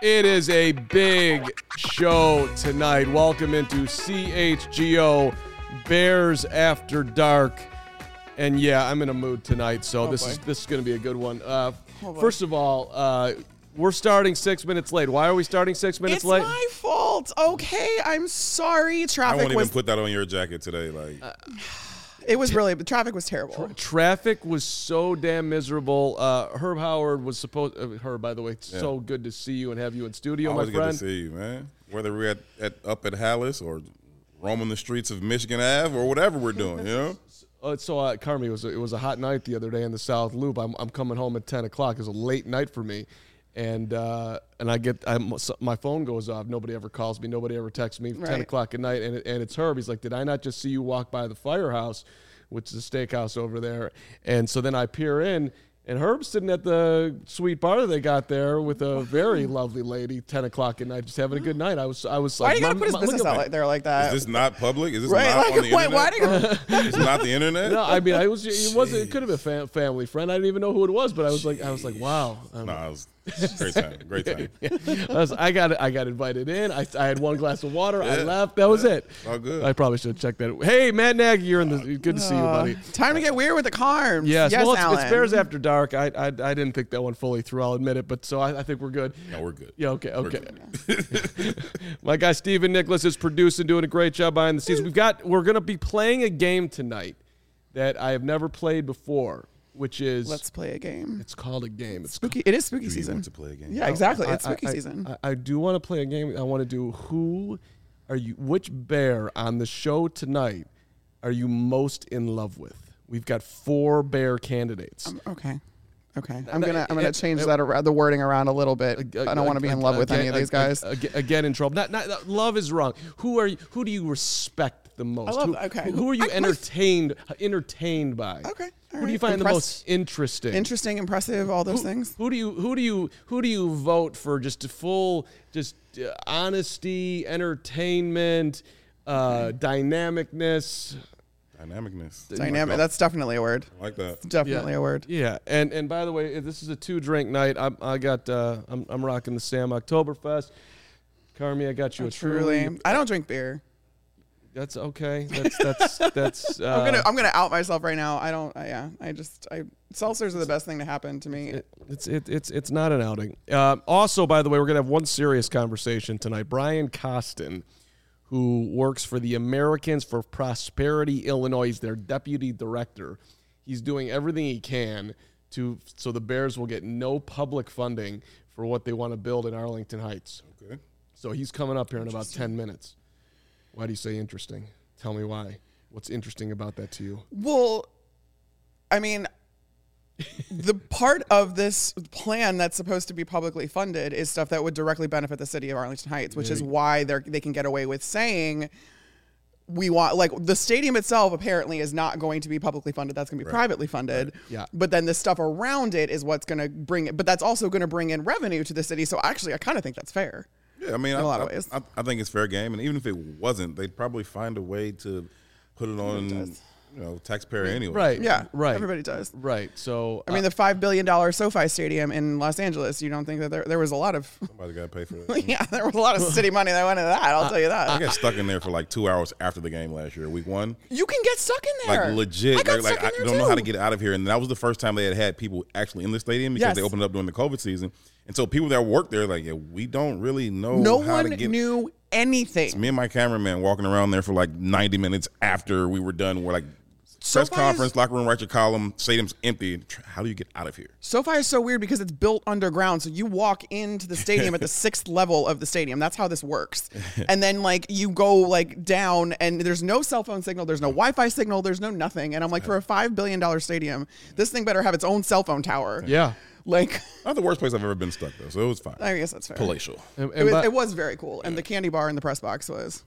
It is a big show tonight. Welcome into CHGO Bears After Dark. And yeah, I'm in a mood tonight, so this is going to be a good one. First of all, we're starting 6 minutes late. Why are we starting 6 minutes late? It's my fault. Okay, I'm sorry. I won't even put that on your jacket today. It was really, the traffic was terrible. Traffic was so damn miserable. Herb Howard was supposed. Herb, by the way, so good to see you and have you in studio, Always my friend. Good to see you, man. Whether we're up at Hallis or roaming the streets of Michigan Ave or whatever we're doing, you know. Carmi, it was a hot night the other day in the South Loop. I'm coming home at 10 o'clock. It was a late night for me. And my phone goes off. Nobody ever calls me. Nobody ever texts me. 10 o'clock at night, and it's Herb. He's like, "Did I not just see you walk by the Firehouse, which is a steakhouse over there?" And so then I peer in, and Herb's sitting at the sweet bar that they got there with a very lovely lady. 10 o'clock at night, just having a good night. I was Why like, are you gonna put his business out there like that? Is this not public? Is this right? not Like, on the internet? why do you? It's not the internet. No, I mean, it could have been a family friend. I didn't even know who it was, but I was like, wow. No, it was great time. I got invited in. I had one glass of water. I left. That was it. All good. I probably should have checked that. Hey, Matt Nagy, you're in the. Good to see you, buddy. Time to get weird with the Carms. Yes, well, Alan. it's Bears After Dark. I didn't think that one fully through. I'll admit it, but so I think we're good. No, we're good. Yeah, okay. Good. My guy Stephen Nicholas is producing, doing a great job behind the scenes. We're gonna be playing a game tonight that I have never played before. Which is Let's play a game. It's called a game. It's spooky. It is spooky Do you season. want to play a game? Yeah, exactly. It's spooky season. I do want to play a game. I want to do which bear on the show tonight are you most in love with? We've got 4 bear candidates. Okay. I'm gonna change the wording around a little bit. I don't want to be in love with any of these guys. Again, in trouble. Not love is wrong. Who do you respect the most? Who are you entertained by? Okay. Who do you find the most interesting? Interesting, impressive, all those things. Who do you vote for? Just full, honesty, entertainment, dynamicness. Dynamic. That's definitely a word. I like that. Definitely a word. Yeah, and by the way, this is a 2-drink night. I'm rocking the Sam Oktoberfest. Carmi, I got you a Truly. I don't drink beer. That's okay. That's. I'm gonna out myself right now. I don't. Seltzers are the best thing to happen to me. It's not an outing. Also, by the way, we're gonna have one serious conversation tonight. Brian Costin, who works for the Americans for Prosperity Illinois, he's their deputy director. He's doing everything he can so the Bears will get no public funding for what they want to build in Arlington Heights. Okay. So he's coming up here in about 10 minutes. Why do you say interesting? Tell me why. What's interesting about that to you? Well, I mean, the part of this plan that's supposed to be publicly funded is stuff that would directly benefit the city of Arlington Heights, which is why they can get away with saying we want, like, the stadium itself apparently is not going to be publicly funded. That's going to be privately funded. Right. Yeah. But then the stuff around it is what's going to bring it. But that's also going to bring in revenue to the city. So actually, I kind of think that's fair. Yeah, I mean, in a lot of ways. I think it's fair game, and even if it wasn't, they'd probably find a way to put it on, taxpayer anyway. Right. Yeah. Right. Everybody does. Right. So I mean, the $5 billion SoFi Stadium in Los Angeles. You don't think that there was a lot of Somebody got to pay for that. yeah, there was a lot of city money that went into that. I'll tell you that. I got stuck in there for like 2 hours after the game last year, week 1. You can get stuck in there. Like legit. I got stuck in I there don't know too. how to get out of here. And that was the first time they had people actually in the stadium because they opened it up during the COVID season. And so people that worked there, like, we don't really know how to get. No one knew anything. It's me and my cameraman walking around there for like 90 minutes after we were done. We're like, press conference, locker room, write your column, stadium's empty. How do you get out of here? SoFi is so weird because it's built underground. So you walk into the stadium at the 6th level of the stadium. That's how this works. And then, like, you go, like, down and there's no cell phone signal. There's no Wi-Fi signal. There's no nothing. And I'm like, for a $5 billion stadium, this thing better have its own cell phone tower. yeah. Like, Not the worst place I've ever been stuck, though, so it was fine. I guess that's fair. Palatial. It was very cool. And the candy bar in the press box was.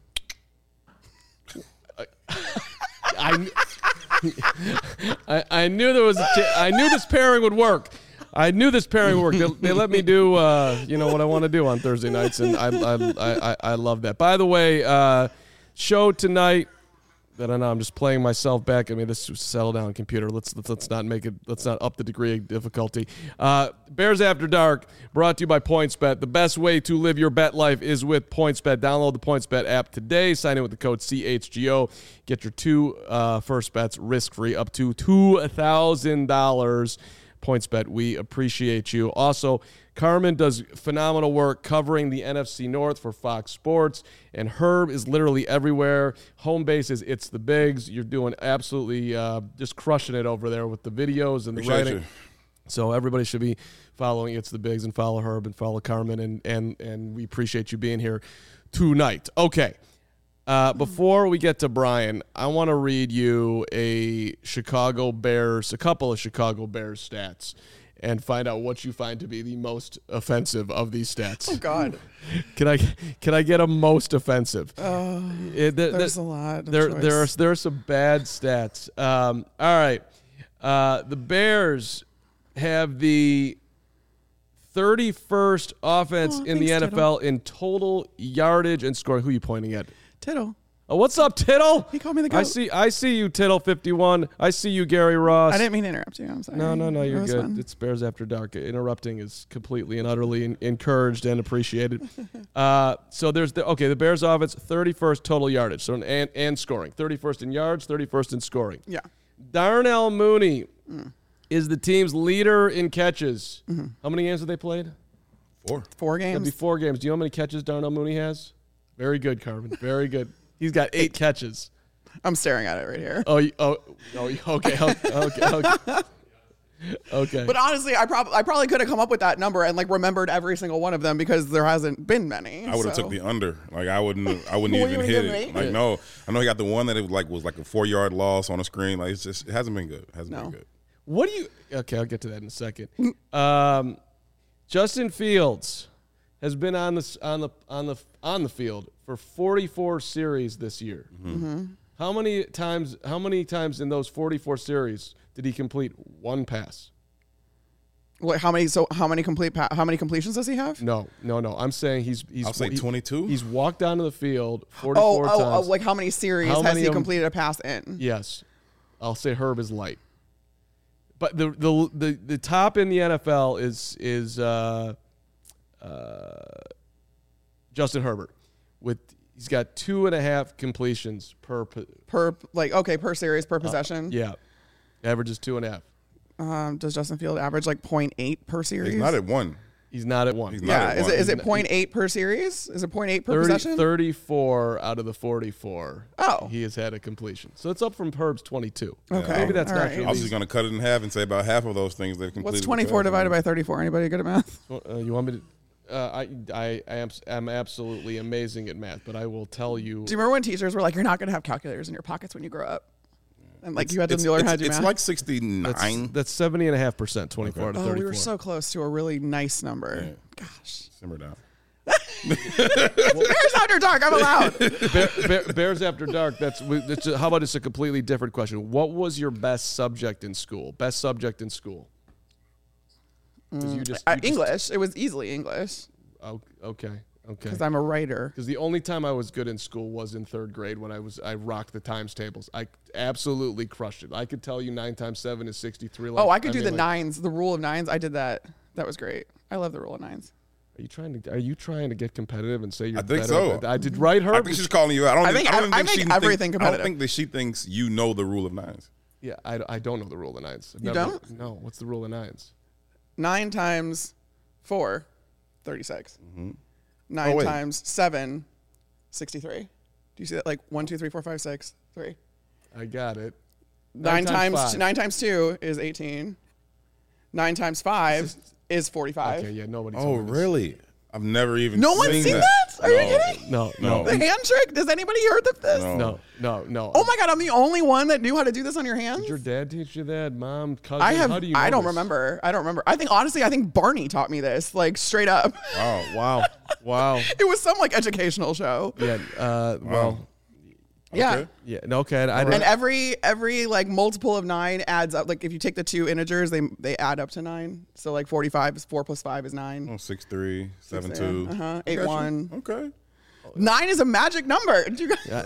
I knew there was. I knew this pairing would work. They let me do, what I want to do on Thursday nights, and I love that. By the way, show tonight. I don't know. I'm just playing myself back. I mean, this settle down, computer. Let's not make it. Let's not up the degree of difficulty. Bears After Dark, brought to you by PointsBet. The best way to live your bet life is with PointsBet. Download the PointsBet app today. Sign in with the code CHGO. Get your two first bets risk free up to $2,000. PointsBet, we appreciate you. Also, Carmen does phenomenal work covering the NFC North for Fox Sports, and Herb is literally everywhere. Home base is It's the Bigs. You're doing absolutely just crushing it over there with the videos and the writing. So everybody should be following It's the Bigs and follow Herb and follow Carmen, and we appreciate you being here tonight. Okay. Before we get to Brian, I want to read you a couple of Chicago Bears stats and find out what you find to be the most offensive of these stats. Oh God. Can I get a most offensive? There's a lot. There are some bad stats. All right. The Bears have the 31st offense in the NFL in total yardage and scoring. Who are you pointing at? Tittle. Oh, what's up, Tittle? He called me the goat. I see you, Tittle 51. I see you, Gary Ross. I didn't mean to interrupt you. I'm sorry. No, you're good. Fun. It's Bears After Dark. Interrupting is completely and utterly encouraged and appreciated. So there's the Bears offense, 31st total yardage, so and scoring. 31st in yards, 31st in scoring. Yeah. Darnell Mooney is the team's leader in catches. Mm-hmm. How many games have they played? 4 games. That'd be 4 games. Do you know how many catches Darnell Mooney has? Very good, Carmen. Very good. He's got 8 catches. I'm staring at it right here. Okay. But honestly, I probably could have come up with that number and like remembered every single one of them because there hasn't been many. I would have took the under. Like I wouldn't even hit it. Like no, I know he got the one that it was like a 4-yard loss on a screen. Like it hasn't been good. Been good. What do you? Okay, I'll get to that in a second. Justin Fields has been on the field for 44 series this year. Mm-hmm. How many times in those 44 series did he complete one pass? What? How many completions does he have? No. I'm saying he's. I'll say 22. He's walked onto the field 44 times. Oh, like how many series has he completed a pass in? Yes, I'll say Herb is light. But the top in the NFL is Justin Herbert he's got 2.5 completions per series per possession. Yeah, averages 2.5. Does Justin Field average like 0.8 per series? He's not at 1. He's not at 1. Is it 0.8 per series? Is it 0.8 per possession? 34 out of the 44. Oh, he has had a completion, so it's up from Herb's 22. Okay, maybe that's not. Right. I was just going to cut it in half and say about half of those things they've completed. What's 24 divided by 34? Anybody good at math? You want me to? I am absolutely amazing at math, but I will tell you. Do you remember when teachers were like, "You're not going to have calculators in your pockets when you grow up," and like you had to learn how to do math? It's like 69. That's 70.5%. 24 to 34. We were so close to a really nice number. Yeah. Gosh. Simmer down. Bears After Dark. I'm allowed. Bears After Dark. How about it's a completely different question? What was your best subject in school? English. It was easily English. Oh, okay. Because I'm a writer. Because the only time I was good in school was in 3rd grade when I rocked the times tables. I absolutely crushed it. I could tell you 9 times 7 is 63. I could do the nines, the rule of nines. I did that. That was great. I love the rule of nines. Are you trying to get competitive and say you're better? I think so. I did right, Herb. I think she's calling you out. I think everything competitive. I don't think that she thinks you know the rule of nines. Yeah, I don't know the rule of nines. Don't? No. What's the rule of nines? 9 times 4, 36. Mm-hmm. 9 times 7, 63. Do you see that? Like 1, 2, 3, 4, 5, 6, 3. I got it. 9 times 2 is 18. 9 times 5 is 45. Okay, yeah, nobody. Oh, really? I've never even. No one's seen that? Are you kidding? No. The hand trick? Does anybody heard of this? No. Oh my God, I'm the only one that knew how to do this on your hands? Did your dad teach you that? Mom, cousin? How do you know I don't this? remember. I think Barney taught me this, like straight up. Wow. It was some like educational show. Yeah. Well. Yeah. Okay. Yeah. No. Okay. And every like multiple of 9 adds up. Like if you take the 2 integers, they add up to 9. So like 45 is 4 plus 5 is 9. 6, 3, 7, 2. 8, 1. Okay. 9 is a magic number. You guys,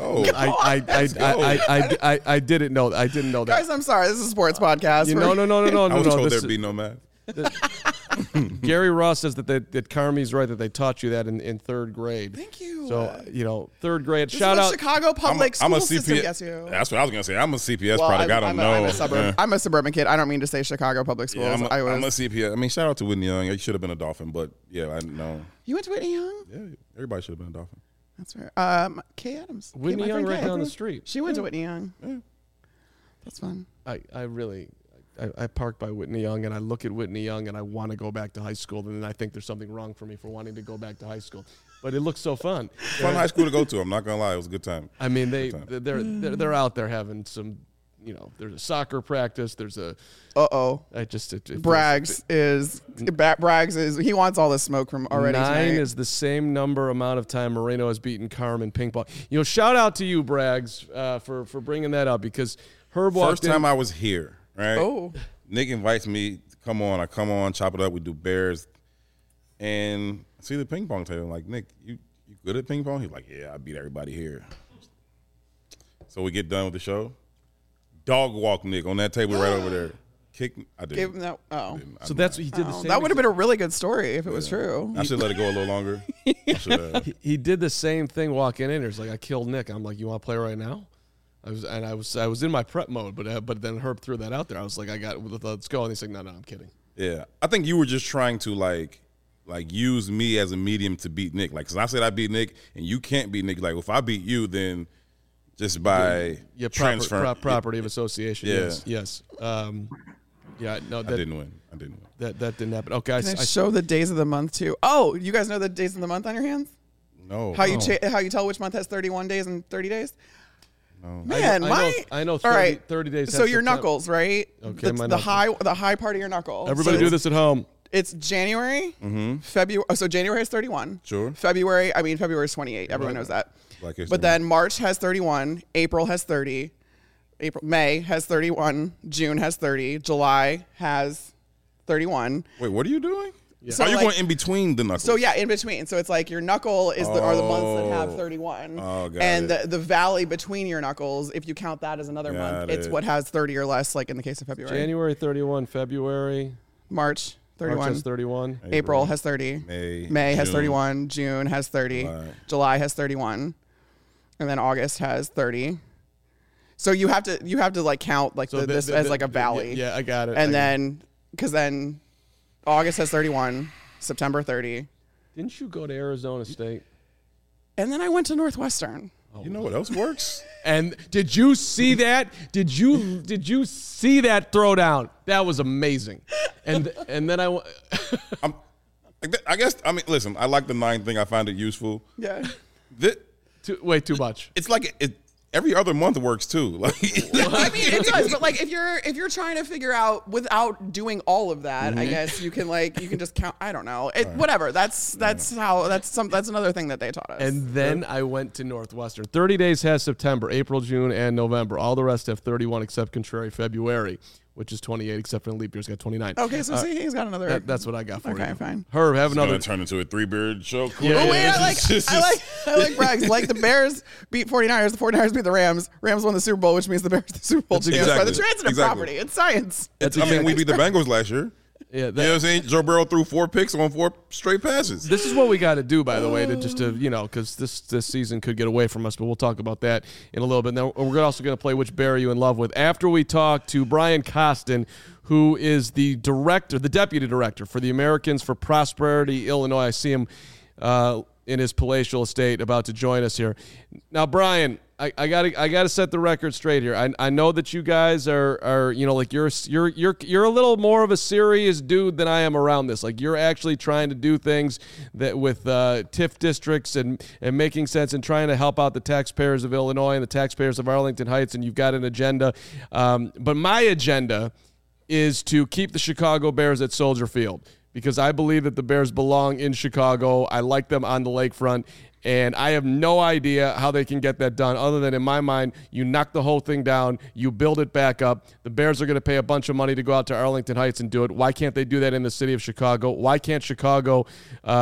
I didn't know. I didn't know that. guys, I'm sorry. This is a sports podcast. No. I was told there'd be no math. Gary Ross says that Carmi's right, that they taught you that in third grade. Thank you. So, third grade. This Shout is out. what Chicago public I'm school a system CPS. gets you. That's what I was going to say. I'm a CPS product. I don't know. I'm a suburban kid. I don't mean to say Chicago public schools. Yeah, I'm a CPS. I mean, shout out to Whitney Young. He should have been a Dolphin, but yeah, I know. You went to Whitney Young? Yeah, everybody should have been a Dolphin. That's fair. Kay Adams. Whitney Young right down the street. She went to Whitney Young. Yeah. That's fun. I park by Whitney Young and I look at Whitney Young and I want to go back to high school, and then I think there's something wrong for me for wanting to go back to high school. But it looks so fun. Fun high school to go to. I'm not gonna lie, it was a good time. I mean, they're out there having some. There's a soccer practice. There's a. Braggs is he wants all the smoke from already. 9 tonight. is the same amount of time Moreno has beaten Carm in ping pong. Shout out to you, Braggs, for bringing that up, because Herb walked First time I was here, right? Oh. Nick invites me. Come on, I come on, chop it up. We do Bears, and I see the ping pong table. I'm like, Nick, you good at ping pong? He's like, yeah, I beat everybody here. So we get done with the show. Dog walk Nick on that table right over there. Kick. I didn't. Give him that. Oh. So that's what he did. The same. That would have been a really good story if it was true. I should let it go a little longer. He did the same thing walking in. He's like, I killed Nick. I'm like, you want to play right now? I was in my prep mode, but then Herb threw that out there. I was like, let's go. And he's like, no, I'm kidding. Yeah, I think you were just trying to like use me as a medium to beat Nick. Like, cause I said I beat Nick, and you can't beat Nick. Like, if I beat you, then just by transfer, property of association. Yeah. Yes. No, I didn't win. That didn't happen. Okay, Can I show the days of the month too? Oh, you guys know the days of the month on your hands? No. How you tell which month has 31 days and 30 days? No. Man, I know 30, all right. 30 days. So your knuckles, right? Okay, the high part of your knuckle. Everybody do this at home. It's January, February. So January has 31. Sure. February is 28. Everyone knows that. But then March has 31. April has 30. May has 31. June has 30. July has 31. Wait, what are you doing? Yeah. So are you going in between the knuckles? So yeah, in between. So it's like your knuckle are the months that have 31. Oh, got and it. the valley between your knuckles, if you count that as another month, it's what has 30 or less, like in the case of February. January 31, February. March 31. March has 31. April has 30. May has 31. June has 30. July has 31. And then August has 30. So you have to like count like this as like a valley. Yeah, I got it. And then because then August has 31, September 30. Didn't you go to Arizona State? And then I went to Northwestern. You know what else works? And did you see that? Did you see that throwdown? That was amazing. And then I guess I mean listen, I like the 9 thing. I find it useful. Yeah. Too much. It's like every other month works too. Like I mean, it does, but like if you're trying to figure out without doing all of that, I guess you can just count. I don't know. Whatever. That's another thing that they taught us. And then I went to Northwestern. 30 days has September, April, June, and November. All the rest have 31 except contrary February, which is 28, except for the leap year's got 29. Okay, so see, he's got another. That's what I got for you. Okay, fine. Herb, have another. It's gonna turn into a 3-beard show. Yeah. Oh wait, I like Braggs. Like the Bears beat 49ers, the 49ers beat the Rams. Rams won the Super Bowl, which means the Bears are the Super Bowl champions by the transitive property. It's science. We beat the Bengals last year. Yeah, you know what I'm saying? Joe Burrow threw 4 picks on 4 straight passes. This is what we got to do, by the way, because this season could get away from us, but we'll talk about that in a little bit. Now, we're also going to play Which Bear Are You in Love With? After we talk to Brian Costin, who is the deputy director for the Americans for Prosperity Illinois. I see him in his palatial estate about to join us here. Now, Brian, I gotta set the record straight here. I know that you guys are like you're a little more of a serious dude than I am around this. Like you're actually trying to do things that with TIF districts and making sense and trying to help out the taxpayers of Illinois and the taxpayers of Arlington Heights, and you've got an agenda. But my agenda is to keep the Chicago Bears at Soldier Field because I believe that the Bears belong in Chicago. I like them on the lakefront. And I have no idea how they can get that done other than, in my mind, you knock the whole thing down, you build it back up. The Bears are going to pay a bunch of money to go out to Arlington Heights and do it. Why can't they do that in the city of Chicago? Why can't Chicago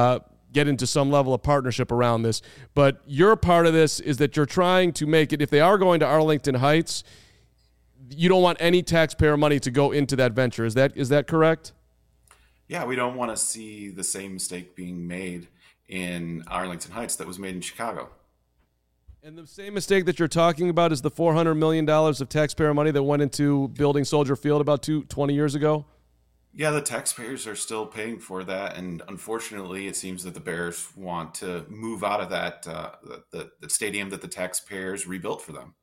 get into some level of partnership around this. But your part of this is that you're trying to make it, if they are going to Arlington Heights, you don't want any taxpayer money to go into that venture. Is that correct? Yeah, we don't want to see the same mistake being made in Arlington Heights that was made in Chicago. And the same mistake that you're talking about is the $400 million of taxpayer money that went into building Soldier Field about 20 years ago? Yeah, the taxpayers are still paying for that, and unfortunately, it seems that the Bears want to move out of that the stadium that the taxpayers rebuilt for them.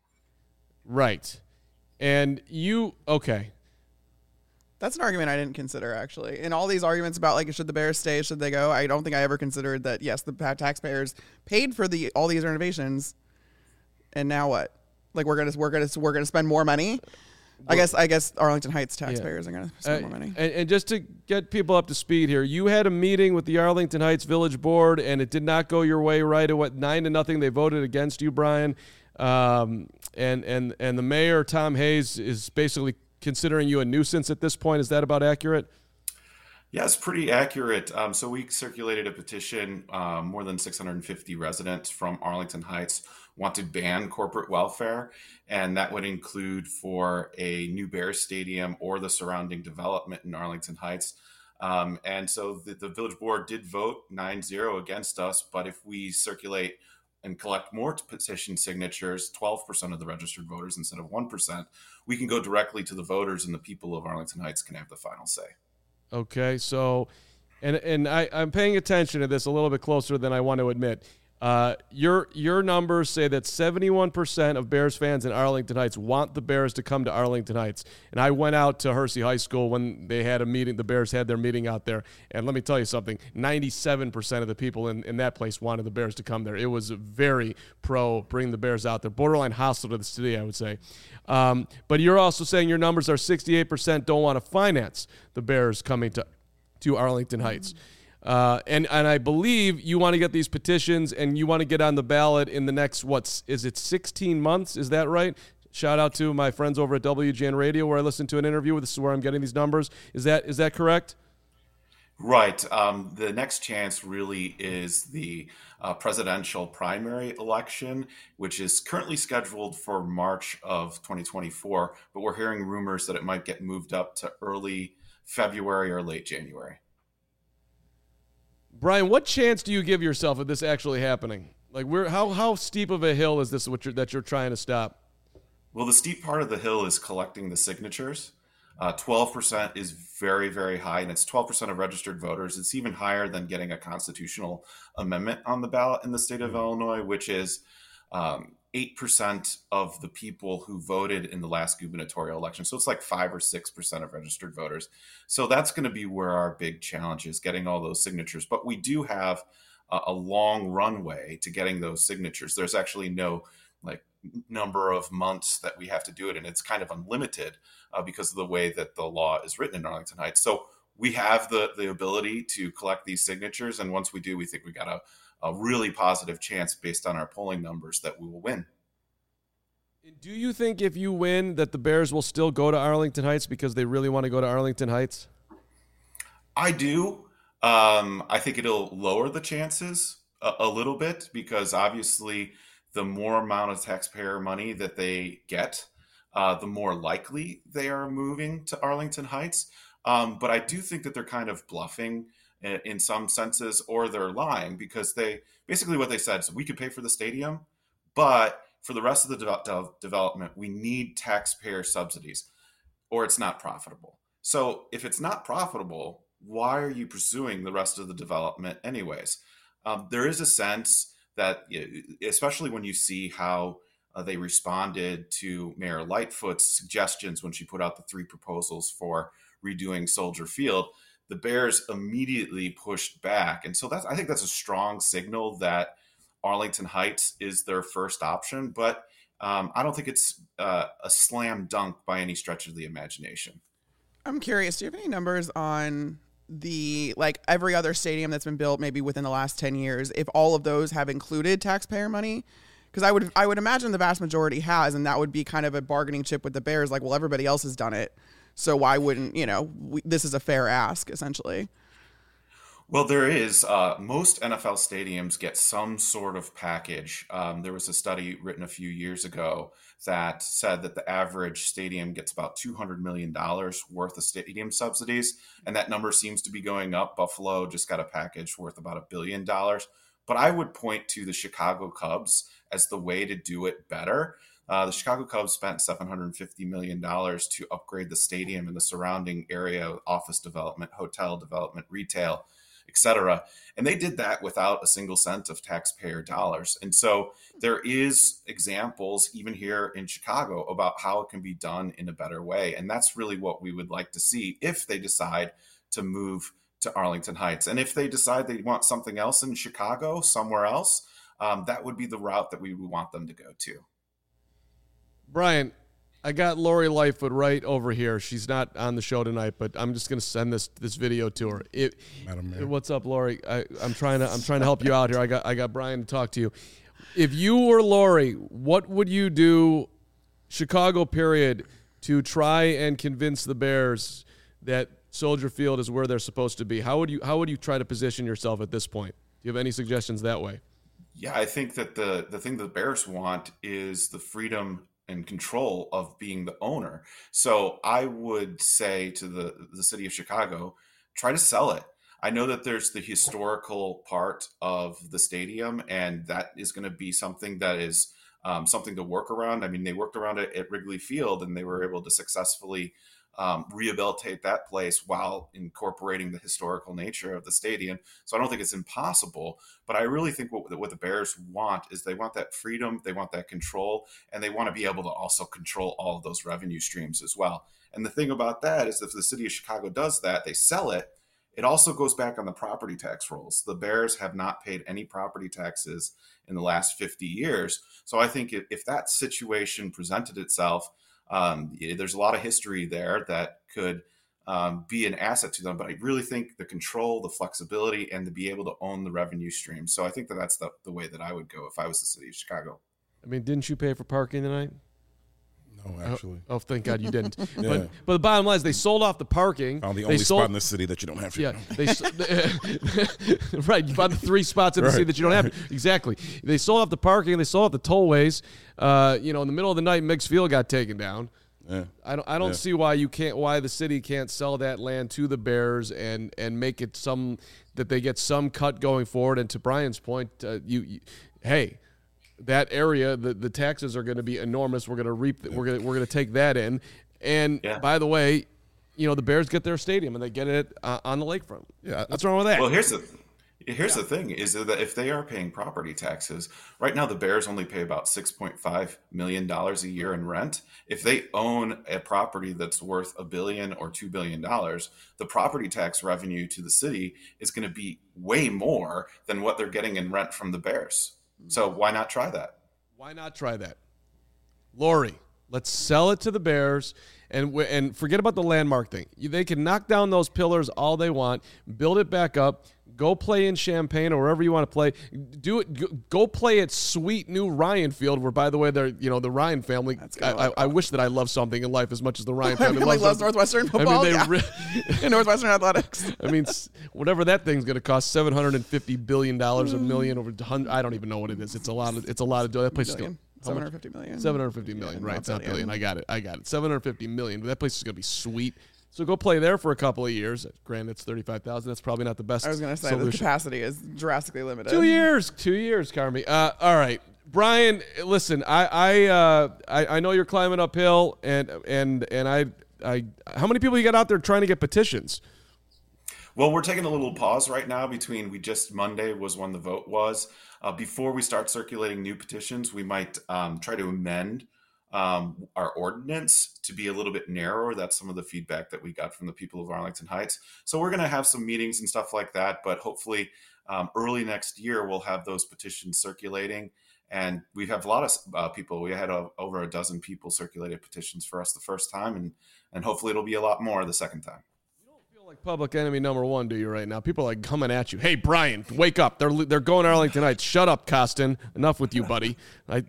Right. And okay. That's an argument I didn't consider, actually. In all these arguments about, like, should the Bears stay, should they go, I don't think I ever considered that, yes, the taxpayers paid for all these renovations, and now what? Like, we're gonna spend more money? I guess Arlington Heights taxpayers are going to spend more money. And just to get people up to speed here, you had a meeting with the Arlington Heights Village Board, and it did not go your way, right? It went 9-0. They voted against you, Brian. And the mayor, Tom Hayes, is basically considering you a nuisance at this point. Is that about accurate? Yeah, it's pretty accurate. So we circulated a petition. More than 650 residents from Arlington Heights want to ban corporate welfare, and that would include for a new Bears stadium or the surrounding development in Arlington Heights. And so the village board did vote 9-0 against us, but if we circulate and collect more petition signatures, 12% of the registered voters instead of 1%, we can go directly to the voters, and the people of Arlington Heights can have the final say. Okay, so, and I'm paying attention to this a little bit closer than I want to admit. Your numbers say that 71% of Bears fans in Arlington Heights want the Bears to come to Arlington Heights. And I went out to Hersey High School when they had a meeting. The Bears had their meeting out there. And let me tell you something, 97% of the people in that place wanted the Bears to come there. It was very pro bring the Bears out there. Borderline hostile to the city, I would say. But you're also saying your numbers are 68% don't want to finance the Bears coming to Arlington Heights. And I believe you want to get these petitions and you want to get on the ballot in the next, 16 months? Is that right? Shout out to my friends over at WGN Radio where I listened to an interview. This is where I'm getting these numbers. Is that correct? Right. The next chance really is the presidential primary election, which is currently scheduled for March of 2024. But we're hearing rumors that it might get moved up to early February or late January. Brian, what chance do you give yourself of this actually happening? Like, how steep of a hill is this that you're trying to stop? Well, the steep part of the hill is collecting the signatures. 12% is very, very high, and it's 12% of registered voters. It's even higher than getting a constitutional amendment on the ballot in the state of Illinois, which is 8% of the people who voted in the last gubernatorial election. So it's like 5 or 6% of registered voters. So that's going to be where our big challenge is, getting all those signatures. But we do have a long runway to getting those signatures. There's actually no number of months that we have to do it, and it's kind of unlimited because of the way that the law is written in Arlington Heights. So we have the ability to collect these signatures, and once we do, we think we got a really positive chance based on our polling numbers that we will win. Do you think if you win that the Bears will still go to Arlington Heights because they really want to go to Arlington Heights? I do. I think it'll lower the chances a little bit because obviously the more amount of taxpayer money that they get, the more likely they are moving to Arlington Heights. But I do think that they're kind of bluffing in some senses, or they're lying, because what they said is we could pay for the stadium, but for the rest of the development, we need taxpayer subsidies or it's not profitable. So if it's not profitable, why are you pursuing the rest of the development anyways? There is a sense that, especially when you see how they responded to Mayor Lightfoot's suggestions when she put out the 3 proposals for redoing Soldier Field, the Bears immediately pushed back. And so I think that's a strong signal that Arlington Heights is their first option, but I don't think it's a slam dunk by any stretch of the imagination. I'm curious, do you have any numbers on every other stadium that's been built maybe within the last 10 years, if all of those have included taxpayer money? Because I would imagine the vast majority has, and that would be kind of a bargaining chip with the Bears, like, well, everybody else has done it, so why wouldn't, this is a fair ask, essentially. Well, there is. Most NFL stadiums get some sort of package. There was a study written a few years ago that said that the average stadium gets about $200 million worth of stadium subsidies, and that number seems to be going up. Buffalo just got a package worth about $1 billion. But I would point to the Chicago Cubs as the way to do it better. The Chicago Cubs spent $750 million to upgrade the stadium and the surrounding area, office development, hotel development, retail, etc. And they did that without a single cent of taxpayer dollars. And so there is examples, even here in Chicago, about how it can be done in a better way. And that's really what we would like to see if they decide to move to Arlington Heights. And if they decide they want something else in Chicago, somewhere else, that would be the route that we would want them to go to. Brian, I got Lori Lightfoot right over here. She's not on the show tonight, but I'm just going to send this video to her. What's up, Lori? I'm trying to help you out here. I got Brian to talk to you. If you were Lori, what would you do, Chicago period, to try and convince the Bears that Soldier Field is where they're supposed to be? How would you try to position yourself at this point? Do you have any suggestions that way? Yeah, I think that the thing the Bears want is the freedom and control of being the owner. So I would say to the city of Chicago, try to sell it. I know that there's the historical part of the stadium, and that is going to be something that is something to work around. I mean, they worked around it at Wrigley Field, and they were able to successfully rehabilitate that place while incorporating the historical nature of the stadium. So I don't think it's impossible, but I really think what the Bears want is they want that freedom, they want that control, and they want to be able to also control all of those revenue streams as well. And the thing about that is if the city of Chicago does that, they sell it, it also goes back on the property tax rolls. The Bears have not paid any property taxes in the last 50 years. So I think if that situation presented itself, there's a lot of history there that could be an asset to them. But I really think the control, the flexibility, and to be able to own the revenue stream. So I think that's the way that I would go if I was the city of Chicago. I mean, didn't you pay for parking tonight? No, actually. Oh, thank God you didn't. Yeah. But the bottom line is they sold off the parking. Found the only spot in the city that you don't have to. Yeah, right. You found the 3 spots in the city that you don't have. Exactly. They sold off the parking. They sold off the tollways. In the middle of the night, Meigs Field got taken down. Yeah. I don't see why the city can't sell that land to the Bears and make it that they get some cut going forward. And to Brian's point, hey. That area, the taxes are going to be enormous. We're going to reap. We're going to take that in. And by the way, the Bears get their stadium and they get it on the lakefront. Yeah, what's wrong with that? Well, here's the thing: is that if they are paying property taxes right now, the Bears only pay about $6.5 million a year in rent. If they own a property that's worth $1 billion or $2 billion, the property tax revenue to the city is going to be way more than what they're getting in rent from the Bears. So why not try that? Why not try that? Lori, let's sell it to the Bears and forget about the landmark thing. They can knock down those pillars all they want, build it back up, go play in Champaign or wherever you want to play. Do it. Go play at sweet new Ryan Field, where, by the way, they're the Ryan family. I wish that I love something in life as much as the Ryan family loves Northwestern football. Northwestern athletics. I mean, whatever that thing's going to cost, $750 billion a million over. I don't even know what it is. It's a lot of. That place is going. $750 million. $750 million, right? It's not billion. I got it. $750 million. That place is going to be sweet. So go play there for a couple of years. Granted, it's 35,000. That's probably not the best. I was going to say solution. The capacity is drastically limited. 2 years, Carmi. All right, Brian. Listen, I know you're climbing uphill, and how many people you got out there trying to get petitions? Well, we're taking a little pause right now between Monday was when the vote was. Before we start circulating new petitions, we might try to amend our ordinance to be a little bit narrower. That's some of the feedback that we got from the people of Arlington Heights. So we're going to have some meetings and stuff like that, but hopefully early next year, we'll have those petitions circulating. And we have a lot of people. We had over a dozen people circulated petitions for us the first time, and hopefully it'll be a lot more the second time. Like public enemy number one, do you right now? People are like coming at you. Hey, Brian, wake up! They're going to Arlington Heights. Shut up, Costin. Enough with you, buddy.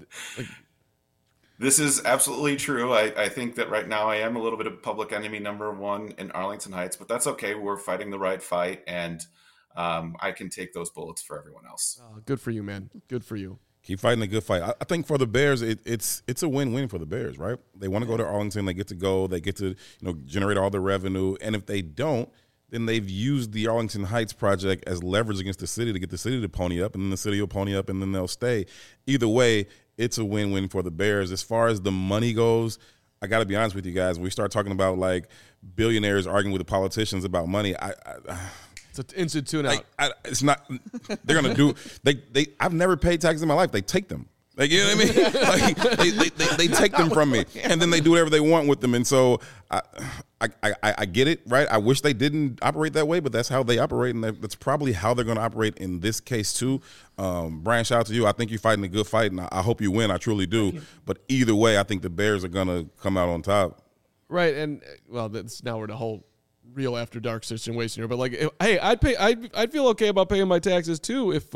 This is absolutely true. I think that right now I am a little bit of public enemy number one in Arlington Heights, but that's okay. We're fighting the right fight, and I can take those bullets for everyone else. Good for you, man. Good for you. Keep fighting a good fight. I think for the Bears, it's a win-win for the Bears, right? They want to go to Arlington. They get to go. They get to generate all the revenue. And if they don't, then they've used the Arlington Heights project as leverage against the city to get the city to pony up, and then the city will pony up, and then they'll stay. Either way, it's a win-win for the Bears. As far as the money goes, I got to be honest with you guys. When we start talking about like billionaires arguing with the politicians about money, it's an instant tune-out. It's not. They're gonna do. They. I've never paid taxes in my life. They take them. Like, you know what I mean? Like, they take them from me, and then they do whatever they want with them. And so I get it, right? I wish they didn't operate that way, but that's how they operate, and that's probably how they're going to operate in this case too. Brian, shout out to you. I think you're fighting a good fight, and I hope you win. I truly do. But either way, I think the Bears are going to come out on top. Right, and well, that's now we're the whole real after dark situation here. But like, hey, I'd feel okay about paying my taxes too if.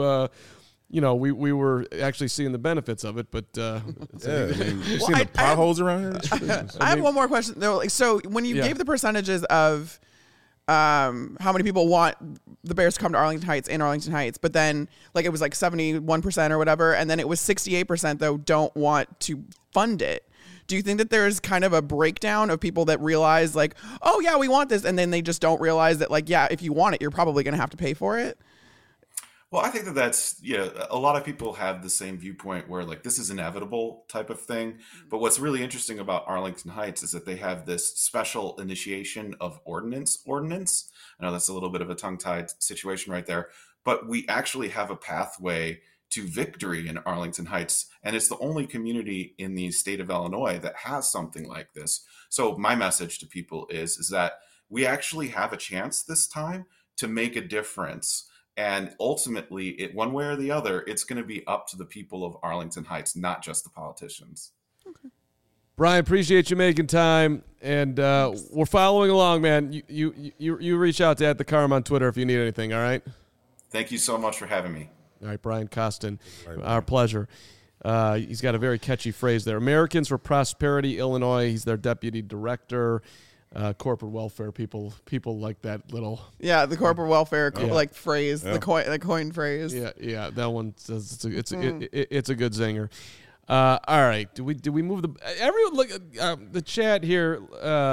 We were actually seeing the benefits of it, but you seeing the potholes around here? I have one more question though. Like, so when you gave the percentages of how many people want the Bears to come to Arlington Heights, but then like it was like 71% or whatever, and then it was 68% though don't want to fund it. Do you think that there's kind of a breakdown of people that realize like, oh yeah, we want this, and then they just don't realize that like, yeah, if you want it, you're probably going to have to pay for it? Well, I think that's, a lot of people have the same viewpoint where like this is inevitable type of thing. But what's really interesting about Arlington Heights is that they have this special initiation of ordinance. I know that's a little bit of a tongue-tied situation right there, but we actually have a pathway to victory in Arlington Heights. And it's the only community in the state of Illinois that has something like this. So my message to people is that we actually have a chance this time to make a difference. And ultimately, one way or the other, it's going to be up to the people of Arlington Heights, not just the politicians. Okay. Brian, appreciate you making time, and we're following along, man. You reach out to @thecarm on Twitter if you need anything. All right. Thank you so much for having me. All right, Brian Costin, our pleasure. He's got a very catchy phrase there. Americans for Prosperity, Illinois. He's their deputy director. Corporate welfare people like that little the corporate welfare like phrase, the coin phrase. Yeah, that one says it's a good zinger. All right, do we move everyone look the chat here?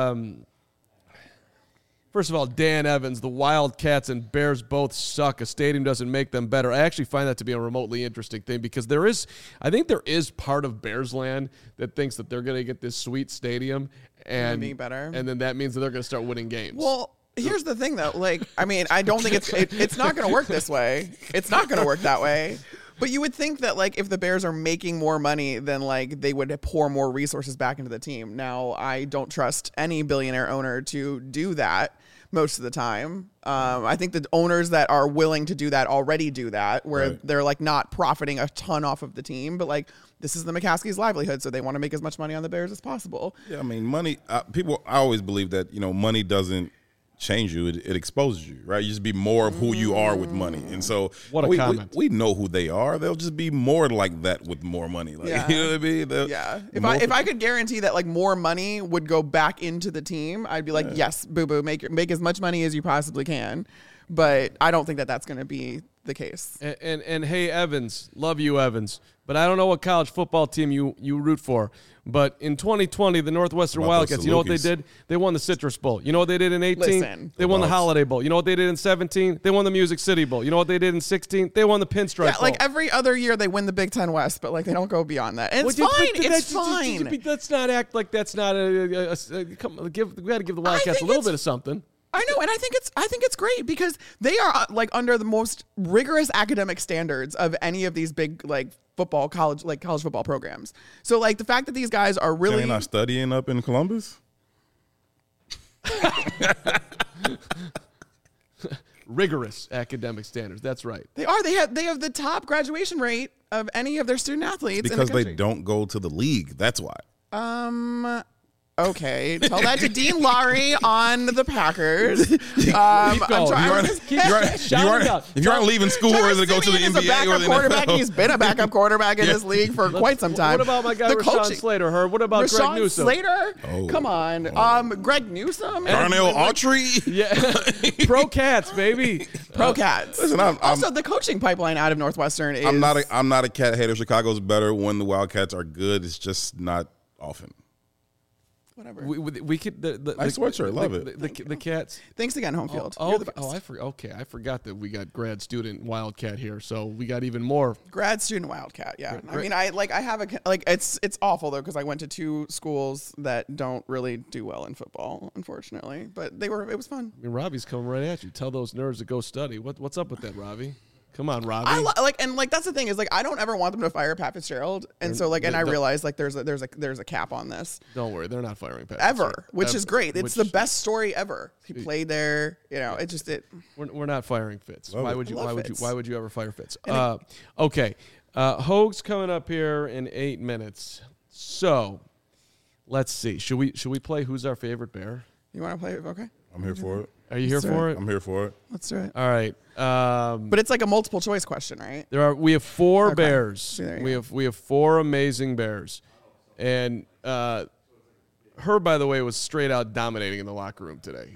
First of all, Dan Evans, the Wildcats and Bears both suck. A stadium doesn't make them better. I actually find that to be a remotely interesting thing because I think there is part of Bears land that thinks that they're going to get this sweet stadium and be better, and then that means that they're going to start winning games. Well, here's the thing though. Like, I mean, I don't think it's not going to work this way. It's not going to work that way. But you would think that like if the Bears are making more money, then like they would pour more resources back into the team. Now, I don't trust any billionaire owner to do that most of the time. I think the owners that are willing to do that already do that, where they're like not profiting a ton off of the team, but like this is the McCaskey's livelihood, so they want to make as much money on the Bears as possible. Yeah, I mean, money. I always believe that money doesn't change you; it exposes you, right? You just be more of who you are with money, and so what a comment. We know who they are. They'll just be more like that with more money. Like, you know what I mean? If I could guarantee that like more money would go back into the team, I'd be like, yes, boo boo, make as much money as you possibly can. But I don't think that that's going to be the case. And hey, Evans, love you, Evans. But I don't know what college football team you root for. But in 2020, the Northwestern Wildcats, you know what they did? They won the Citrus Bowl. You know what they did in 18? They won the Holiday Bowl. You know what they did in 17? They won the Music City Bowl. You know what they did in 16? They won the Pinstripe Bowl. Like every other year they win the Big Ten West, but like they don't go beyond that. And it's fine. It's fine. Let's not act like that's not we got to give the Wildcats a little bit of something. I know, and I think it's great because they are like under the most rigorous academic standards of any of these big like college football programs. So like the fact that these guys are really not studying up in Columbus. Rigorous academic standards. That's right. They are. They have the top graduation rate of any of their student athletes because they don't go to the league. That's why. Okay, tell that to Dean Lowry on the Packers. Keep going. If you aren't leaving school or to go to the NBA or the quarterback. NFL. He's been a backup quarterback in this league for quite some time. What about my guy Rashawn Slater? What about Greg Rashawn Newsom? Slater? Come on. Greg Newsom? Darnell Autry? Yeah. Pro Cats, baby. Pro Cats. Listen, also, the coaching pipeline out of Northwestern is... I'm not a cat hater. Chicago's better when the Wildcats are good. It's just not often. Whatever. We could Nice sweatshirt, love it. The Cats. Thanks again, home field. I forgot that we got grad student Wildcat here, so we got even more grad student Wildcat. Yeah, I mean, I have it's awful though because I went to 2 schools that don't really do well in football, unfortunately. But it was fun. I mean, Robbie's coming right at you. Tell those nerds to go study. What's up with that, Robbie? Come on, Robbie. That's the thing is I don't ever want them to fire Pat Fitzgerald, and I realize there's a cap on this. Don't worry, they're not firing Pat ever, which is great. It's the best story ever. He played there, We're not firing Fitz. Why would you ever fire Fitz? Okay, Hoag's coming up here in 8 minutes. So let's see. Should we play Who's Our Favorite Bear? You want to play? Okay. I'm here for it. Are you here for it? I'm here for it. Let's do it. All right. But it's like a multiple choice question, right? We have 4 bears. So we have 4 amazing bears, and her, by the way, was straight out dominating in the locker room today.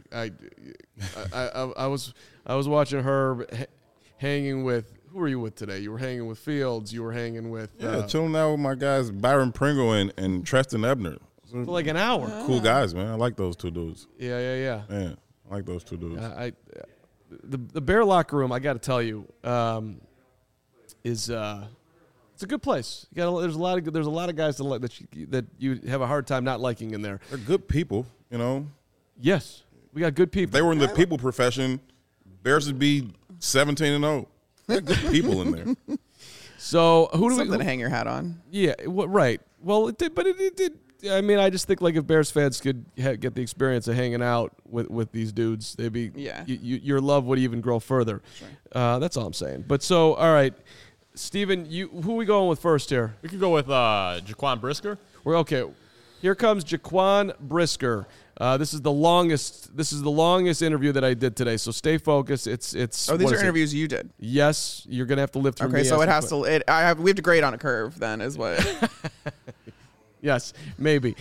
I was watching her hanging with. Who were you with today? You were hanging with Fields. You were hanging with chilling out with my guys Byron Pringle and Treston Ebner. For like an hour. Cool guys, man. I like those 2 dudes. Yeah. Man, I like those 2 dudes. The Bear locker room, I got to tell you, is it's a good place. There's a lot of guys that you have a hard time not liking in there. They're good people, Yes, we got good people. If they were in the people profession, Bears would be 17-0. They're good people in there. So something to hang your hat on? Yeah, right. Well, it did. I mean, I just think if Bears fans could get the experience of hanging out with these dudes, they'd be your love would even grow further. Right. That's all I'm saying. But so, all right, Steven, who are we going with first here? We could go with Jaquan Brisker. We're okay. Here comes Jaquan Brisker. This is the longest interview that I did today. So stay focused. It's. Oh, these are interviews you did. Yes, you're gonna have to live through. Okay, so it has to. We have to grade on a curve. Then is what. Yes, maybe.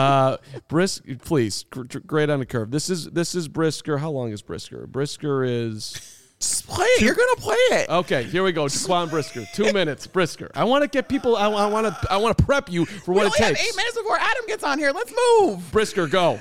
Please, grade on a curve. This is Brisker. How long is Brisker? Brisker is. Just play it. You're gonna play it. Okay, here we go. Jaquan Brisker. 2 minutes. Brisker. I want to get people. I want to prep you for what it takes. We only have 8 minutes before Adam gets on here. Let's move. Brisker, go.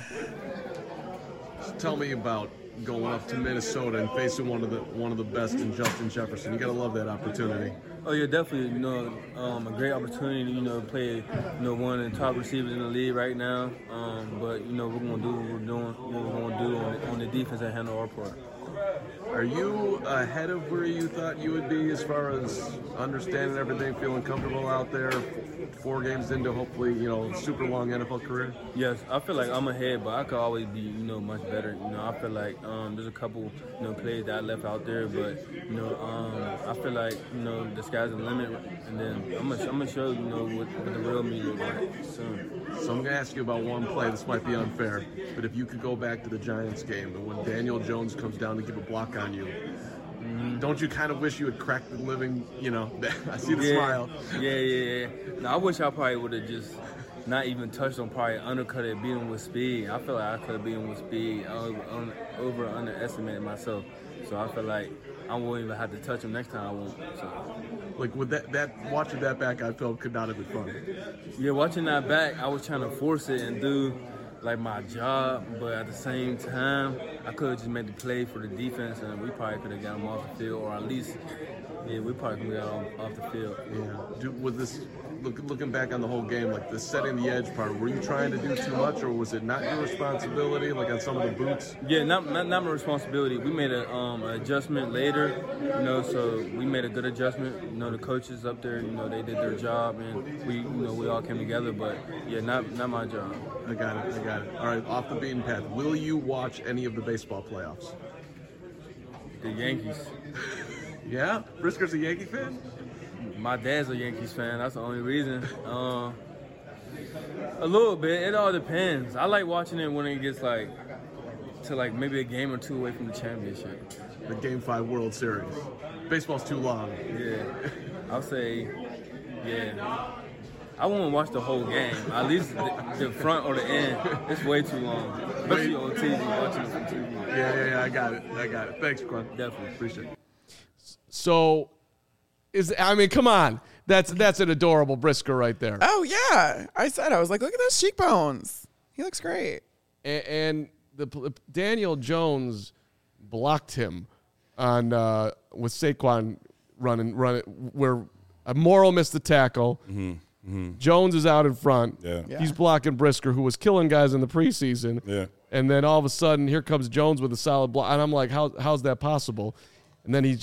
Tell me about going up to Minnesota and facing one of the best in Justin Jefferson. You gotta love that opportunity. Oh yeah, definitely. A great opportunity. Play one of the top receivers in the league right now. But we're gonna do what we're doing. What we're gonna do on the defense and handle our part. Are you ahead of where you thought you would be as far as understanding everything, feeling comfortable out there? 4 games into hopefully super long NFL career. Yes, I feel like I'm ahead, but I could always be much better. I feel like there's a couple plays that I left out there, but I feel like the sky's the limit, and then I'm gonna show what the real me looks like soon. So I'm gonna ask you about one play. This might be unfair, but if you could go back to the Giants game and when Daniel Jones comes down to give a block on you. Don't you kind of wish you had cracked the living, I see the smile. Yeah. No, I wish I probably would have just not even touched him, probably undercut it, beat him with speed. I feel like I could have beat him with speed. I underestimated myself. So I feel like I won't even have to touch him next time I won't. So. Like with watching that back, I felt could not have been fun. Yeah, watching that back, I was trying to force it and do my job, but at the same time, I could have just made the play for the defense, and we probably could have got him off the field, or at least, we probably could have got him off the field. Yeah. With this, looking back on the whole game, the setting the edge part, were you trying to do too much, or was it not your responsibility, on some of the boots? Yeah, not my responsibility. We made an adjustment later, so we made a good adjustment. The coaches up there, they did their job, and we all came together. But yeah, not my job. I got it. All right, off the beaten path. Will you watch any of the baseball playoffs? The Yankees. Yeah? Brisker's a Yankee fan? My dad's a Yankees fan. That's the only reason. A little bit. It all depends. I like watching it when it gets like to like maybe a game or two away from the championship. The Game 5 World Series. Baseball's too long. Yeah. I'll say, yeah. I won't watch the whole game. At least the front or the end. It's way too long. Especially on TV, watching it on TV. Yeah. I got it. Thanks, Quan. Definitely. Appreciate it. So, come on. That's an adorable Brisker right there. Oh, yeah. I was like, look at those cheekbones. He looks great. And Daniel Jones blocked him on with Saquon running where Morrow missed the tackle. Jones is out in front. Yeah. He's blocking Brisker, who was killing guys in the preseason. Yeah. And then all of a sudden, here comes Jones with a solid block, and I'm like, how's that possible? And then he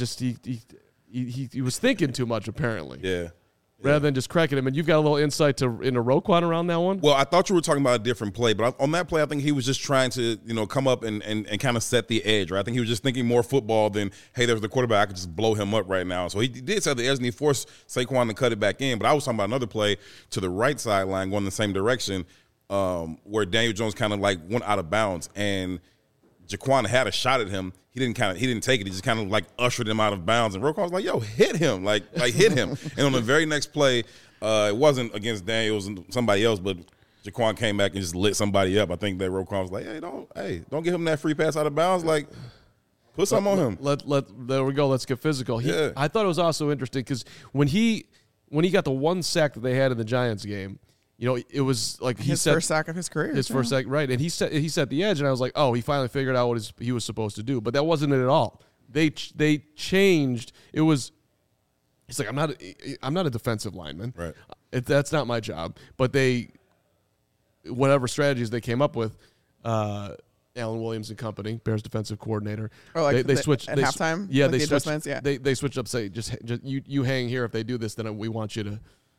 was thinking too much apparently. Yeah. Rather than just cracking him. And you've got a little insight into Roquan around that one? Well, I thought you were talking about a different play, but on that play, I think he was just trying to, come up and kind of set the edge, right? I think he was just thinking more football than, hey, there's the quarterback, I could just blow him up right now. So he did set the edge, and he forced Saquon to cut it back in. But I was talking about another play to the right sideline going the same direction where Daniel Jones kind of like went out of bounds, and Jaquan had a shot at him. He didn't take it. He just kind of like ushered him out of bounds. And Roquan was like, yo, hit him. Like hit him. And on the very next play, it wasn't against Daniels and somebody else, but Jaquan came back and just lit somebody up. I think that Roquan was like, don't give him that free pass out of bounds. Like, put something on him. There we go. Let's get physical. I thought it was also interesting because when he got the one sack that they had in the Giants game, it was like his first sack of his career. His first sack, right? And he set the edge, and I was like, oh, he finally figured out what he was supposed to do. But that wasn't it at all. They changed. It was. He's like, I'm not a defensive lineman. Right. That's not my job. But whatever strategies they came up with, Alan Williams and company, Bears defensive coordinator. Oh, like they switched at halftime. Yeah, like they the switched. Adjustments? Yeah. They switched up. Say just you hang here. If they do this, then we want you to.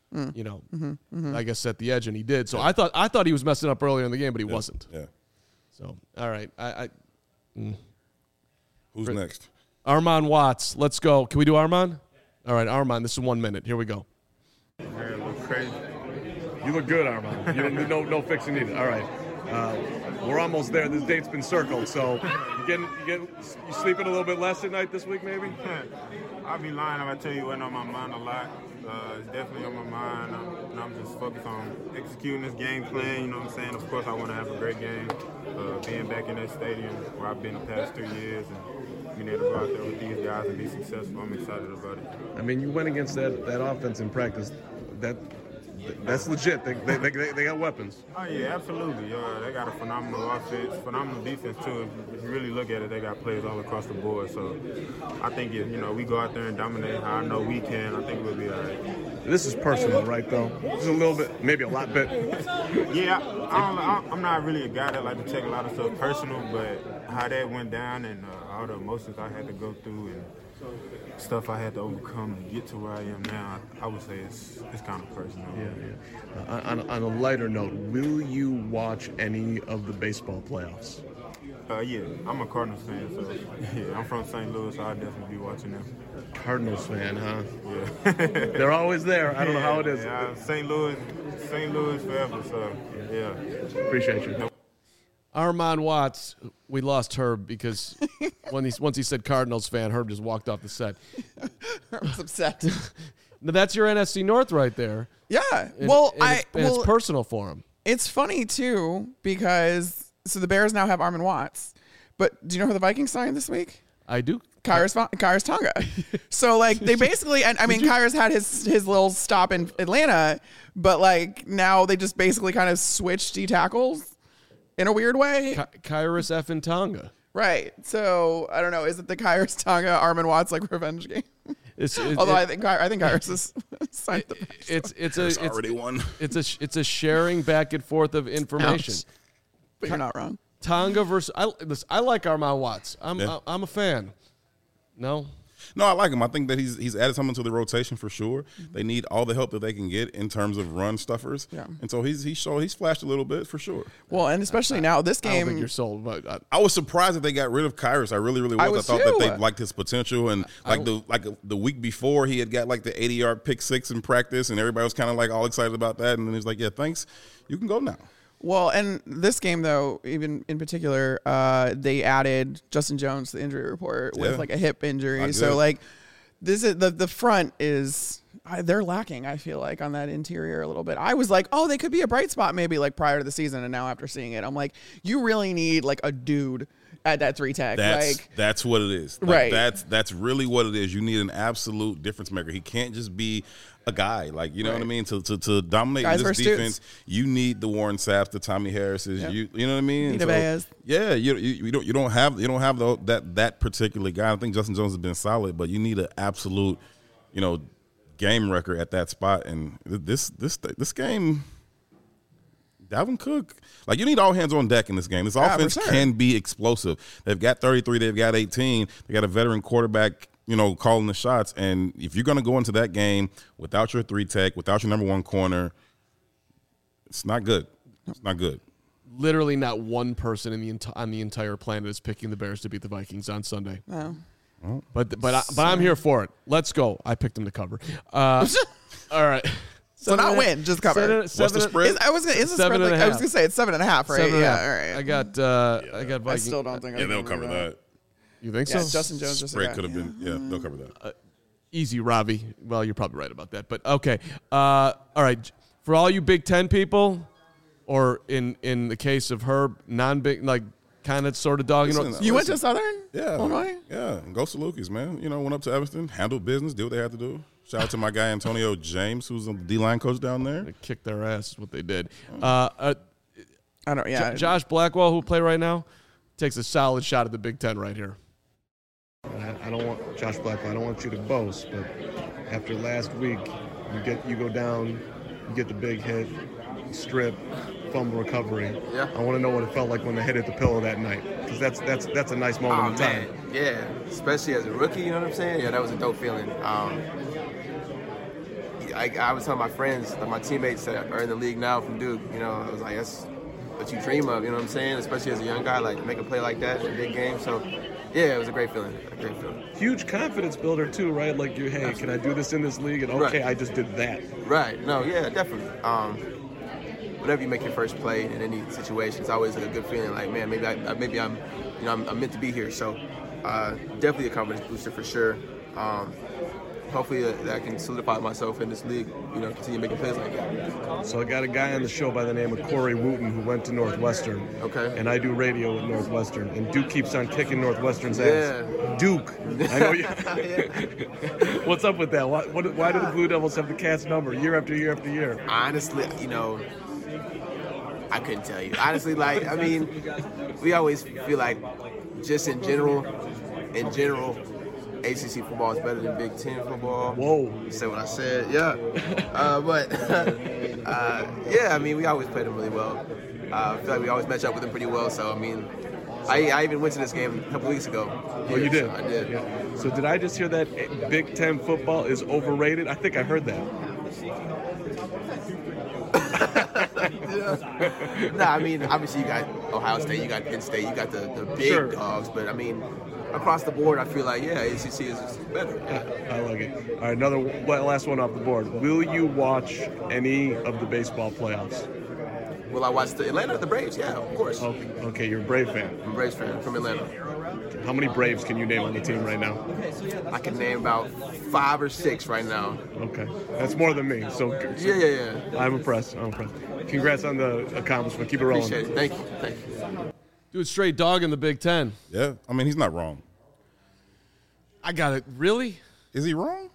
I guess set the edge, and he did. So I thought he was messing up earlier in the game, but he wasn't. Yeah. So all right, Who's next? Armon Watts. Let's go. Can we do Armon? All right, Armon. This is 1 minute. Here we go. Crazy. You look good, Armon. You don't no fixing needed. All right. We're almost there. This date's been circled, so you sleeping a little bit less at night this week, maybe? I'll be lying if I tell you it wasn't on my mind a lot. It's definitely on my mind, and I'm just focused on executing this game plan. You know what I'm saying? Of course, I want to have a great game. Being back in that stadium where I've been the past 2 years and being able to go out there with these guys and be successful, I'm excited about it. I mean, you went against that offense in practice. That's legit. They got weapons. Oh, yeah, absolutely. They got a phenomenal offense, phenomenal defense, too. If you really look at it, they got players all across the board. So I think if we go out there and dominate how I know we can, I think we'll be all right. This is personal, right, though? This is a little bit, maybe a lot bit. Yeah, I'm not really a guy that like to take a lot of stuff personal, but how that went down and all the emotions I had to go through and stuff I had to overcome to get to where I am now, I would say it's kind of personal. Yeah. On a lighter note, will you watch any of the baseball playoffs? Yeah, I'm a Cardinals fan, so yeah, I'm from St. Louis, so I'll definitely be watching them. Cardinals fan, huh? Yeah. They're always there. I don't know how it is. Yeah, St. Louis forever, so yeah. Appreciate you. Armon Watts, we lost Herb because once he said Cardinals fan, Herb just walked off the set. Herb's upset. Now, that's your NFC North right there. Yeah. It's personal for him. It's funny too because the Bears now have Armon Watts, but do you know who the Vikings signed this week? I do. Khyiris Tonga. So they basically, and I mean, Khyiris had his little stop in Atlanta, but now they just basically kind of switched D tackles. In a weird way. Khyiris effing Tonga. Right. So, I don't know. Is it the Khyiris Tonga Armon Watts revenge game? Although I think Khyiris is signed the it's already won. It's a sharing back and forth of information. Ouch. But you're not wrong. Tonga versus I like Armon Watts. I'm a fan. No. No, I like him. I think that he's added something to the rotation for sure. They need all the help that they can get in terms of run stuffers. Yeah. And so he's flashed a little bit for sure. Well, and especially now, this I don't game. think you're sold, but I was surprised that they got rid of Kyrus. I really was. I thought too. that they liked his potential, and the week before he had got like the 80-yard pick six in practice, and everybody was kind of like all excited about that. And then he's like, "Yeah, thanks, you can go now." Well, and this game, though, even in particular, they added Justin Jones to the injury report with like a hip injury. So, like, this is the front is they're lacking, I feel like, on that interior a little bit. I was like, oh, they could be a bright spot maybe like prior to the season. And now after seeing it, I'm like, you really need like a dude at that 3 tech. That's what it is. Like, right. That's really what it is. You need an absolute difference maker. He can't just be a guy, like, you know what I mean? To dominate Guys this versus defense, dudes. You need the Warren Sapps, the Tommy Harrises. Yep. You know what I mean? Vita Baez. Yeah, you don't have that particular guy. I think Justin Jones has been solid, but you need an absolute, game record at that spot. And this game, Dalvin Cook, like, you need all hands on deck in this game. This offense can be explosive. They've got 33, they've got 18. They got a veteran quarterback, calling the shots. And if you're going to go into that game without your 3 tech, without your number 1 corner, it's not good. It's not good. literally not one person on the entire planet is picking the Bears to beat the Vikings on Sunday. Oh. But I'm here for it. Let's go. I picked them to cover. All right. So not win, just cover. What's the spread? I was gonna say it's 7.5, right? 7.5. All right. I got Vikings. I still don't think. They'll cover that. You think Yeah, so? Justin Jones just Spread could have been. Yeah, they'll cover that. Easy, Robbie. Well, you're probably right about that, but okay. All right. For all you Big Ten people, or in the case of Herb, non-big, like kind of sort of dogging. You went to Southern? Yeah. Illinois? Yeah. And go Salukis, man. Went up to Evanston, handled business, did what they had to do. Shout out to my guy Antonio James, who's the D-line coach down there. They kicked their ass is what they did. I don't. Yeah. Josh Blackwell, who play right now, takes a solid shot at the Big Ten right here. I don't want Josh Blackwell. I don't want you to boast, but after last week, you go down, you get the big hit, strip, fumble recovery. Yeah. I want to know what it felt like when they hit at the pillow that night, because that's a nice moment in time. Man. Yeah, especially as a rookie, you know what I'm saying? Yeah, that was a dope feeling. I was telling my friends, my teammates that are in the league now from Duke, I was like, that's what you dream of, you know what I'm saying? Especially as a young guy, like, make a play like that in a big game. So, yeah, it was a great feeling. Huge confidence builder too, right? Like, hey, can I do this in this league? And okay, right. I just did that. Right. No, yeah, definitely. Whenever you make your first play in any situation, it's always like a good feeling. Like, man, maybe I'm meant to be here. So, definitely a confidence booster for sure. Hopefully I can solidify myself in this league, continue making plays like that. So I got a guy on the show by the name of Corey Wooten who went to Northwestern. Okay. And I do radio at Northwestern. And Duke keeps on kicking Northwestern's ass. Duke. I know you. What's up with that? Why do the Blue Devils have the Cats number year after year after year? Honestly, I couldn't tell you. Honestly, we always feel like just in general, ACC football is better than Big Ten football. Whoa. You said what I said, yeah. We always play them really well. I feel like we always match up with them pretty well. So, I even went to this game a couple weeks ago. Oh, you did? So I did. Yeah. So did I just hear that Big Ten football is overrated? I think I heard that. Obviously you got Ohio State, you got Penn State, you got the big dogs, but across the board, I feel like, ACC is better. Yeah. I like it. All right, last one off the board. Will you watch any of the baseball playoffs? Will I watch the Atlanta or the Braves? Yeah, of course. Okay, you're a Brave fan. I'm a Braves fan from Atlanta. How many Braves can you name on the team right now? I can name about 5 or 6 right now. Okay. That's more than me. So yeah. I'm impressed. Congrats on the accomplishment. Keep it rolling. Appreciate it. Thank you. Dude, straight dog in the Big Ten. Yeah, he's not wrong. I got it. Really? Is he wrong?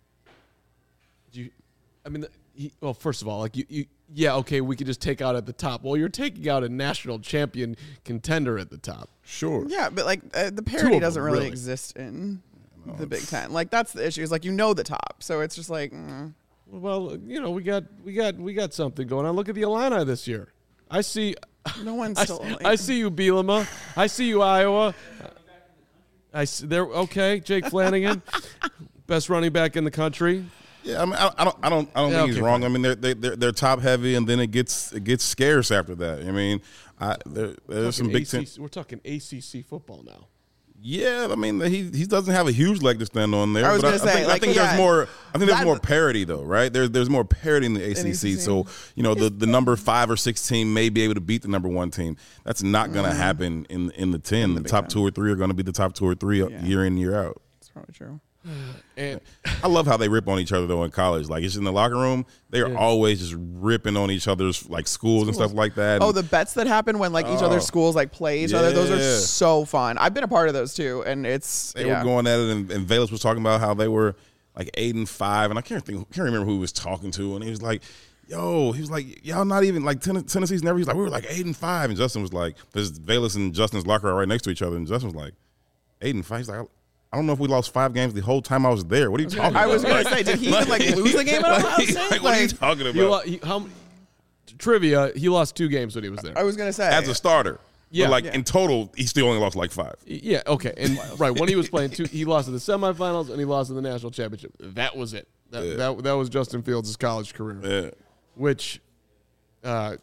Well, first of all, okay, we could just take out at the top. Well, you're taking out a national champion contender at the top. Sure. Yeah, but the parity doesn't really exist in the Big Ten. That's the issue. Is the top, so it's just like. Well, we got something going on. Look at the Illini this year. I see. No one's still. I see you, Bielema. I see you, Iowa. Okay, Jake Flanagan, best running back in the country. Yeah, I mean, I don't think he's wrong. Fine. I mean, they're top heavy, and then it gets scarce after that. I mean, there's some big. We're talking ACC football now. Yeah, I mean, he doesn't have a huge leg to stand on there. I was going to say, I think there's more. I think there's more parity though, right? There's more parity in the ACC. So the number 5 or 6 team may be able to beat the number 1 team. That's not going to happen in the 10. The top 2 or 3 are going to be the top 2 or 3 year in, year out. That's probably true. And I love how they rip on each other though in college. Like it's in the locker room, they are always just ripping on each other's like schools and stuff like that. Oh, the bets that happen when like each other's schools like play each other, those are so fun. I've been a part of those too, and they were going at it. And Velus was talking about how they were like 8-5, and I can't remember who he was talking to, and he was like, y'all not even like Tennessee's never. He's like, we were like 8-5, and Justin was like, there's Velus and Justin's locker are right next to each other, and Justin was like 8-5. He's like, I don't know if we lost 5 games the whole time I was there. What are you talking about? I was going to say, did he even lose the game at Ohio State? What are you talking about? Trivia, he lost 2 games when he was there. I was going to say. As a starter. Yeah. But in total, he still only lost like 5. Yeah, okay. And when he was playing 2, he lost in the semifinals and he lost in the national championship. That was it. That was Justin Fields' college career. Yeah. Which the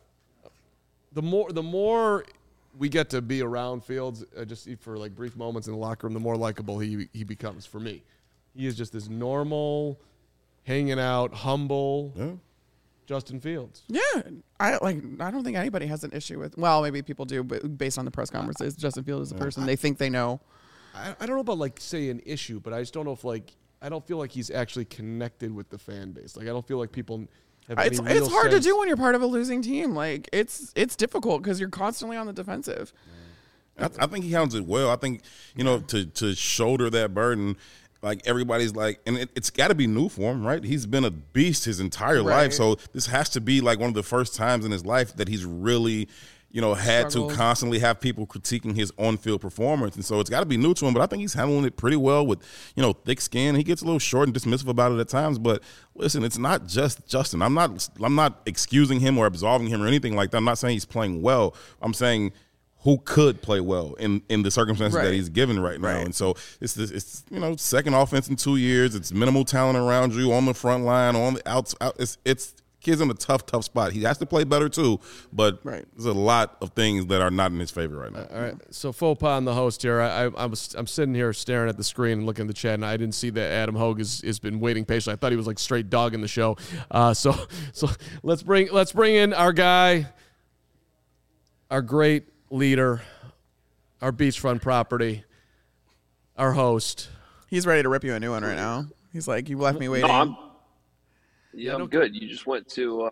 more we get to be around Fields just for like brief moments in the locker room, the more likable he becomes for me. He is just this normal, hanging out, humble Justin Fields. Yeah, I don't think anybody has an issue with. Well, maybe people do, but based on the press conferences, Justin Fields is a person they think they know. I don't know about like say an issue, but I just don't know if I don't feel like he's actually connected with the fan base. Like I don't feel like people. It's hard to do when you're part of a losing team. Like it's difficult because you're constantly on the defensive. I think he handles it well. I think to shoulder that burden, like everybody's like, and it's got to be new for him, right? He's been a beast his entire life, so this has to be like one of the first times in his life that he's really. Had to constantly have people critiquing his on-field performance. And so it's got to be new to him, but I think he's handling it pretty well with, thick skin. He gets a little short and dismissive about it at times, but listen, it's not just Justin. I'm not excusing him or absolving him or anything like that. I'm not saying he's playing well. I'm saying who could play well in the circumstances that he's given right now. And so it's second offense in 2 years. It's minimal talent around you on the front line, on the outs. It's kid's in a tough spot. He has to play better too, but there's a lot of things that are not in his favor right now. All right, so faux pas on the host here. I'm sitting here staring at the screen and looking at the chat, and I didn't see that Adam Hogue has been waiting patiently. I thought he was like straight dogging the show. So let's bring in our guy, our great leader, our beachfront property, our host. He's ready to rip you a new one right now. He's like, you left me waiting. No, I'm good. You just went to,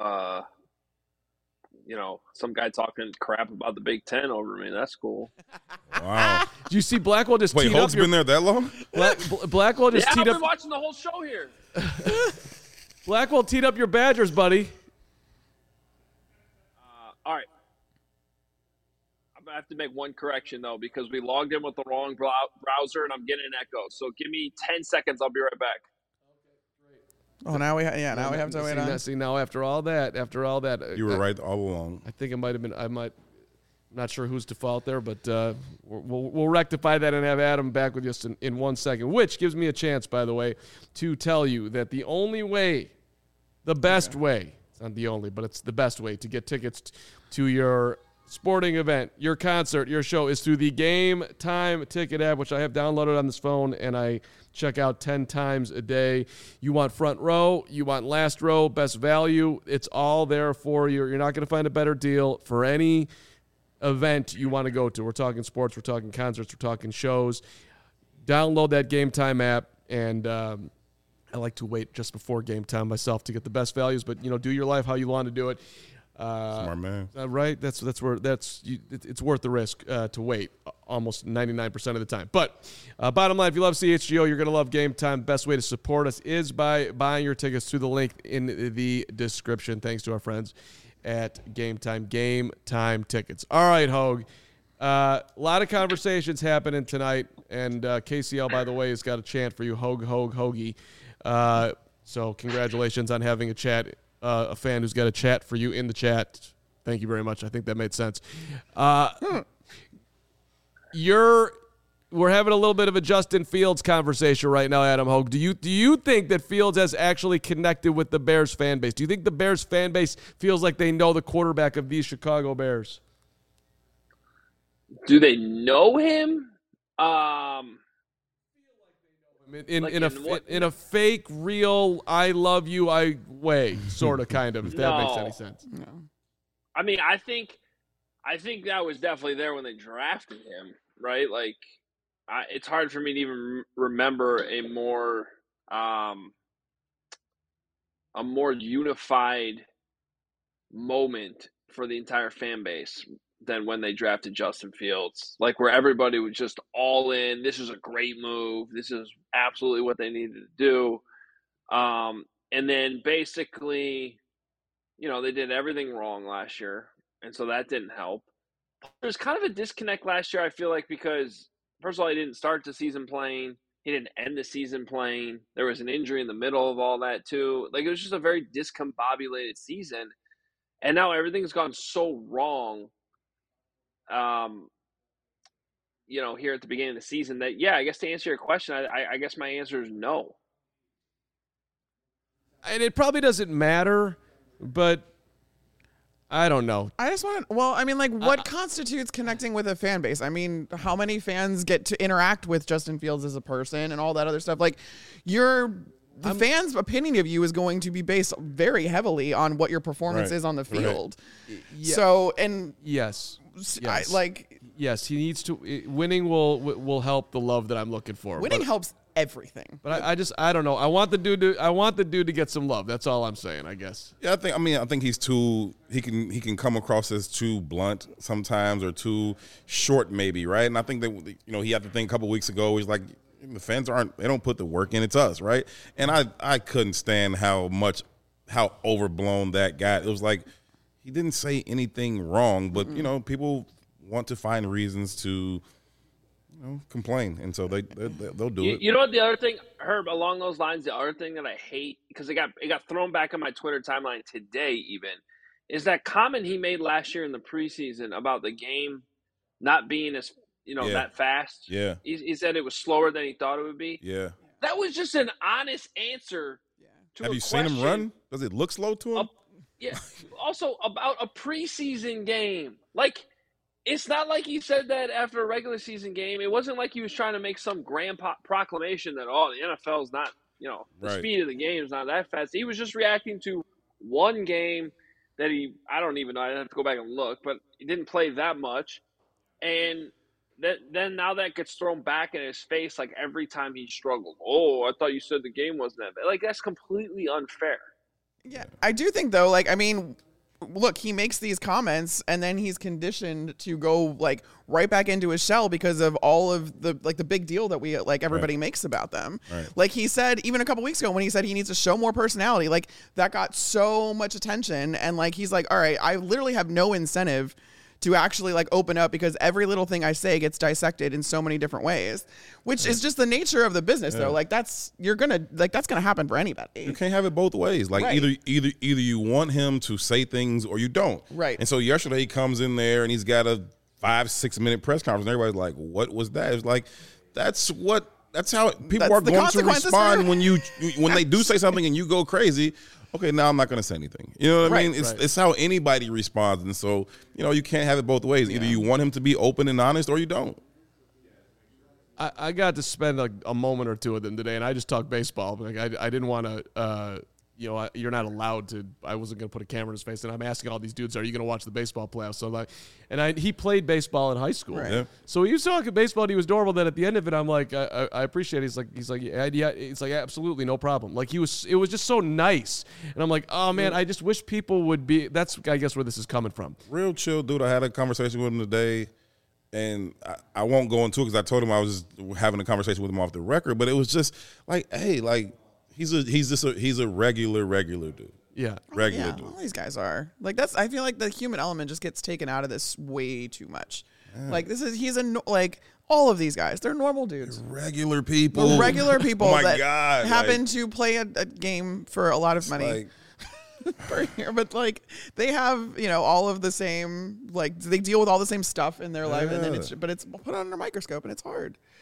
some guy talking crap about the Big Ten over me. That's cool. Wow. Do you see Blackwell just teed up? Wait, Holt's been there that long? Blackwell just teed up. I've been watching the whole show here. Blackwell teed up your Badgers, buddy. All right. I have to make one correction, though, because we logged in with the wrong browser, and I'm getting an echo. So give me 10 seconds. I'll be right back. Oh, now we have to wait on. See, now after all that, you were right all along. I think it might have been. I'm not sure whose default there, but we'll rectify that and have Adam back with us in 1 second. Which gives me a chance, by the way, to tell you that the only way, the best way, it's not the only, but it's the best way to get tickets to your sporting event, your concert, your show is through the Game Time Ticket app, which I have downloaded on this phone, and I check out 10 times a day. You want front row, you want last row, best value. It's all there for you. You're not going to find a better deal for any event you want to go to. We're talking sports, we're talking concerts, we're talking shows. Download that Game Time app, and I like to wait just before game time myself to get the best values, but do your life how you want to do it. Smart man. Right? It's worth the risk to wait almost 99% of the time. But bottom line, if you love CHGO, you're going to love Game Time. Best way to support us is by buying your tickets through the link in the description. Thanks to our friends at Game Time. Game Time Tickets. All right, Hogue. A lot of conversations happening tonight, and KCL, by the way, has got a chant for you, Hogue, Hoagie. So congratulations on having a chat. A fan who's got a chat for you in the chat. Thank you very much. I think that made sense. You're we're having a little bit of a Justin Fields conversation right now, Adam Hogue. Do you think that Fields has actually connected with the Bears fan base? Do you think the Bears fan base feels like they know the quarterback of these Chicago Bears? Do they know him? In a fake, real, I love you, I way sort of kind of, if that makes any sense. No. I mean, I think that was definitely there when they drafted him, right? Like, it's hard for me to even remember a more unified moment for the entire fan base than when they drafted Justin Fields. Like, where everybody was just all in. This is a great move. This is absolutely what they needed to do. And then basically, they did everything wrong last year, and so that didn't help. There's kind of a disconnect last year, I feel like, because, first of all, he didn't start the season playing. He didn't end the season playing. There was an injury in the middle of all that, too. Like, it was just a very discombobulated season. And now everything's gone so wrong, here at the beginning of the season that, yeah, I guess to answer your question, I guess my answer is no. And it probably doesn't matter, but I don't know. I just want to, what constitutes connecting with a fan base? I mean, how many fans get to interact with Justin Fields as a person and all that other stuff? Like, the fans' opinion of you is going to be based very heavily on what your performance is on the field. Right. Yeah. So, and yes, yes, he needs to. Winning will help the love that I'm looking for. Winning helps everything. But I don't know. I want the dude to get some love. That's all I'm saying, I guess. Yeah, I think he's too. He can come across as too blunt sometimes, or too short, maybe, right? And I think that he had to think a couple weeks ago. He's like, the fans they don't put the work in. It's us, right? And I couldn't stand how overblown that got. It was like he didn't say anything wrong, but people want to find reasons to complain, and so they'll do it. You know what? The other thing, Herb, along those lines, the other thing that I hate, because it got thrown back on my Twitter timeline today, even, is that comment he made last year in the preseason about the game not being as that fast. Yeah. He said it was slower than he thought it would be. Yeah. That was just an honest answer to Have you seen him run? Does it look slow to him? Yeah. Also, about a preseason game. Like, it's not like he said that after a regular season game. It wasn't like he was trying to make some grand proclamation that, the NFL's not, the speed of the game is not that fast. He was just reacting to one game that I don't even know. I'd have to go back and look, but he didn't play that much. And then now that gets thrown back in his face, like, every time he struggled. Oh, I thought you said the game wasn't that bad. Like, that's completely unfair. Yeah, I do think, though, look, he makes these comments and then he's conditioned to go right back into his shell because of all of the big deal that we everybody makes about them. Right. Like he said even a couple weeks ago when he said he needs to show more personality, that got so much attention, and he's like, all right, I literally have no incentive to actually open up because every little thing I say gets dissected in so many different ways, which is just the nature of the business, though. That's gonna happen for anybody. You can't have it both ways. Either you want him to say things or you don't. Right. And so yesterday he comes in there and he's got a 5-6 minute press conference and everybody's like, what was that? It's like, that's how people are going to respond when they do say something and you go crazy. Okay, now I'm not going to say anything. You know what I mean? It's how anybody responds. And so, you can't have it both ways. Either you want him to be open and honest or you don't. I got to spend a moment or two with him today, and I just talked baseball. I didn't want to, you're not allowed to. I wasn't going to put a camera in his face, and I'm asking all these dudes, are you going to watch the baseball playoffs? So he played baseball in high school. Right. Yeah. So he was talking baseball, and he was adorable. Then at the end of it, I'm like, I appreciate it. He's like, yeah, it's like, absolutely, no problem. It was just so nice. And I'm like, oh, man, I just wish people would be, that's, I guess, where this is coming from. Real chill dude. I had a conversation with him today, and I won't go into it because I told him I was just having a conversation with him off the record, but it was just he's a regular dude. Yeah. Regular dude. All these guys are. I feel like the human element just gets taken out of this way too much. Yeah. All of these guys, they're normal dudes. They're regular people. That happen to play a game for a lot of money. Per year, but they have all of the same they deal with all the same stuff in their life, and then it's put under a microscope and it's hard.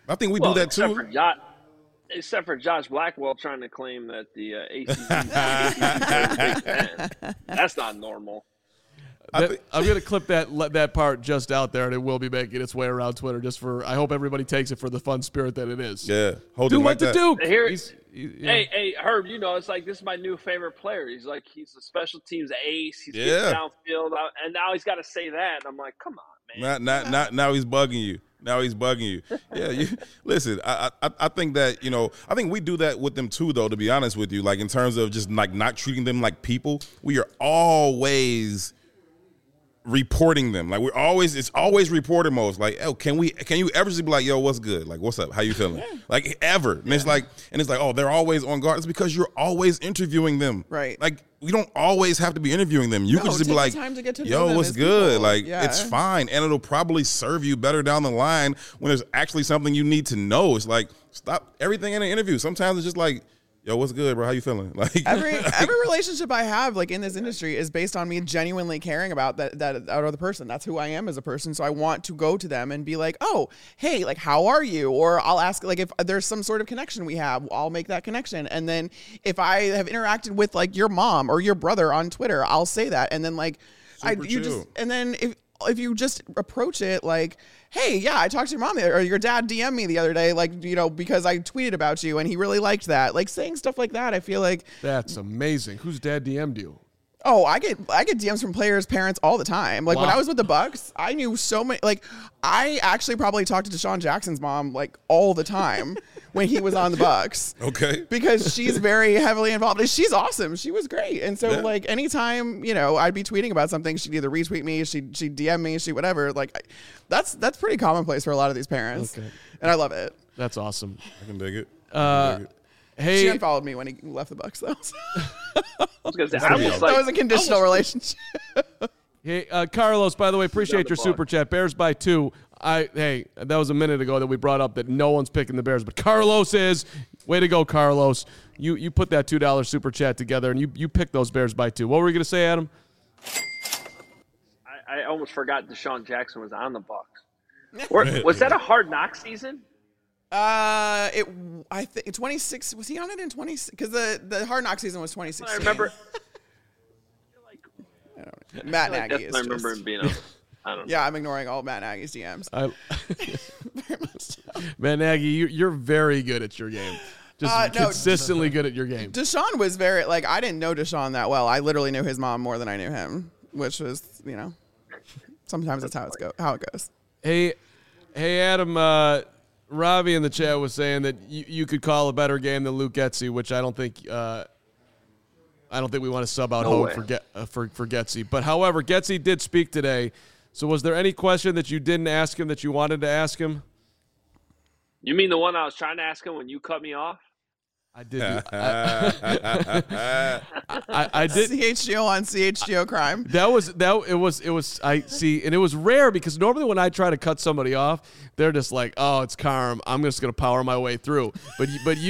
I think we do that too. Except for Josh Blackwell trying to claim that the ACC is Big Ten. That's not normal. I'm going to clip that part just out there, and it will be making its way around Twitter. I hope everybody takes it for the fun spirit that it is. Yeah, Duke went to Duke. Hey, Herb, it's like this is my new favorite player. He's a special teams ace. He's getting downfield, and now he's got to say that. And I'm like, come on, man. Now he's bugging you. Yeah, listen. I think that I think we do that with them too, though. To be honest with you, like in terms of just like not treating them like people, we are always reporting them. Like it's always reporter mode. Like, oh, can you ever just be like, yo, what's good? Like, what's up? How you feeling? Like ever? And it's like, oh, they're always on guard. It's because you're always interviewing them. Right. Like we don't always have to be interviewing them. You can just be like, time to get to know yo, them what's as good? people. Like it's fine. And it'll probably serve you better down the line when there's actually something you need to know. It's like, stop everything in an interview. Sometimes it's just like, yo, what's good, bro? How you feeling? Like every relationship I have, like in this industry, is based on me genuinely caring about that other person. That's who I am as a person. So I want to go to them and be like, oh, hey, like how are you? Or I'll ask, like if there's some sort of connection we have, I'll make that connection. And then if I have interacted with like your mom or your brother on Twitter, I'll say that. And then like if you just approach it like, hey, yeah, I talked to your mom or your dad DM'd me the other day, like, because I tweeted about you and he really liked that. Like saying stuff like that, I feel like that's amazing. Whose dad DM'd you? Oh, I get DMs from players' parents all the time. Like when I was with the Bucks, I knew so many. Like I actually probably talked to Deshaun Jackson's mom like all the time when he was on the Bucks. Okay. Because she's very heavily involved. And she's awesome. She was great. And so like anytime I'd be tweeting about something, she'd either retweet me, she'd DM me, whatever. Like that's pretty commonplace for a lot of these parents. Okay. And I love it. That's awesome. I can dig it. Hey, she unfollowed me when he left the Bucks, though. I was gonna say, that was a conditional relationship. Hey, Carlos, by the way, appreciate your super chat. Bears by 2. That was a minute ago that we brought up that no one's picking the Bears, but Carlos is. Way to go, Carlos. You put that $2 super chat together, and you picked those Bears by 2. What were you going to say, Adam? I almost forgot Deshaun Jackson was on the Bucs. Was that a Hard Knock season? I think 26. Was he on it in 26? Because the Hard Knock season was 2016. I remember. Matt Nagy is. I remember him being on. I don't know. Yeah, I'm ignoring all Matt Nagy's DMs. Very much so. Matt Nagy, you're very good at your game. Just consistently good at your game. Deshaun was very I didn't know Deshaun that well. I literally knew his mom more than I knew him, which was sometimes that's how it goes. Hey, Adam. Robbie in the chat was saying that you could call a better game than Luke Getsy, which I don't think we want to sub out Hogue for Getsy. But however, Getsy did speak today. So was there any question that you didn't ask him that you wanted to ask him? You mean the one I was trying to ask him when you cut me off? I did. I did. CHGO on CHGO crime. It was. I see, and it was rare because normally when I try to cut somebody off, they're just like, "Oh, it's Carm. I'm just gonna power my way through." But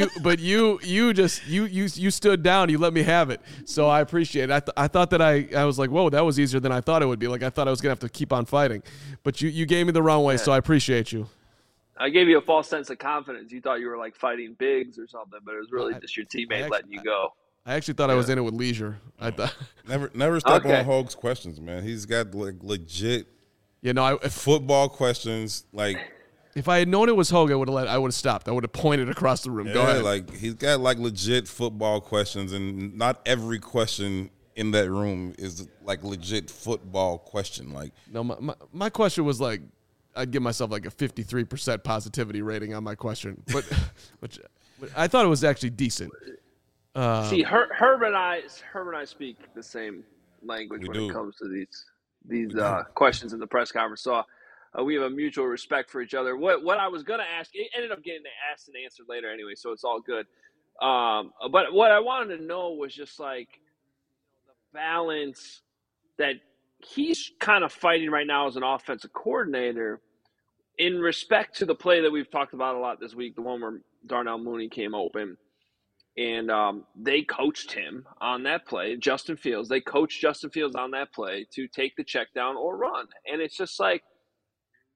you stood down. You let me have it, so I appreciate it. I thought that I was like, "Whoa, that was easier than I thought it would be." Like I thought I was gonna have to keep on fighting, but you gave me the wrong way, so I appreciate you. I gave you a false sense of confidence. You thought you were fighting Biggs or something, but it was really just your teammate letting you go. I actually thought I was in it with leisure. I thought never step on Hogue's questions, man. He's got legit, football questions. Like if I had known it was Hogue, I would have stopped. I would have pointed across the room. Yeah, go ahead. Like he's got legit football questions, and not every question in that room is legit football question. Like no, my question was I'd give myself a 53% positivity rating on my question, but I thought it was actually decent. See, Herb and I speak the same language when it comes to these questions in the press conference. So we have a mutual respect for each other. What I was going to ask, it ended up getting asked and answered later anyway, so it's all good. But what I wanted to know was just the balance that he's kind of fighting right now as an offensive coordinator in respect to the play that we've talked about a lot this week, the one where Darnell Mooney came open. And they coached him on that play, Justin Fields. They coached Justin Fields on that play to take the check down or run. And it's just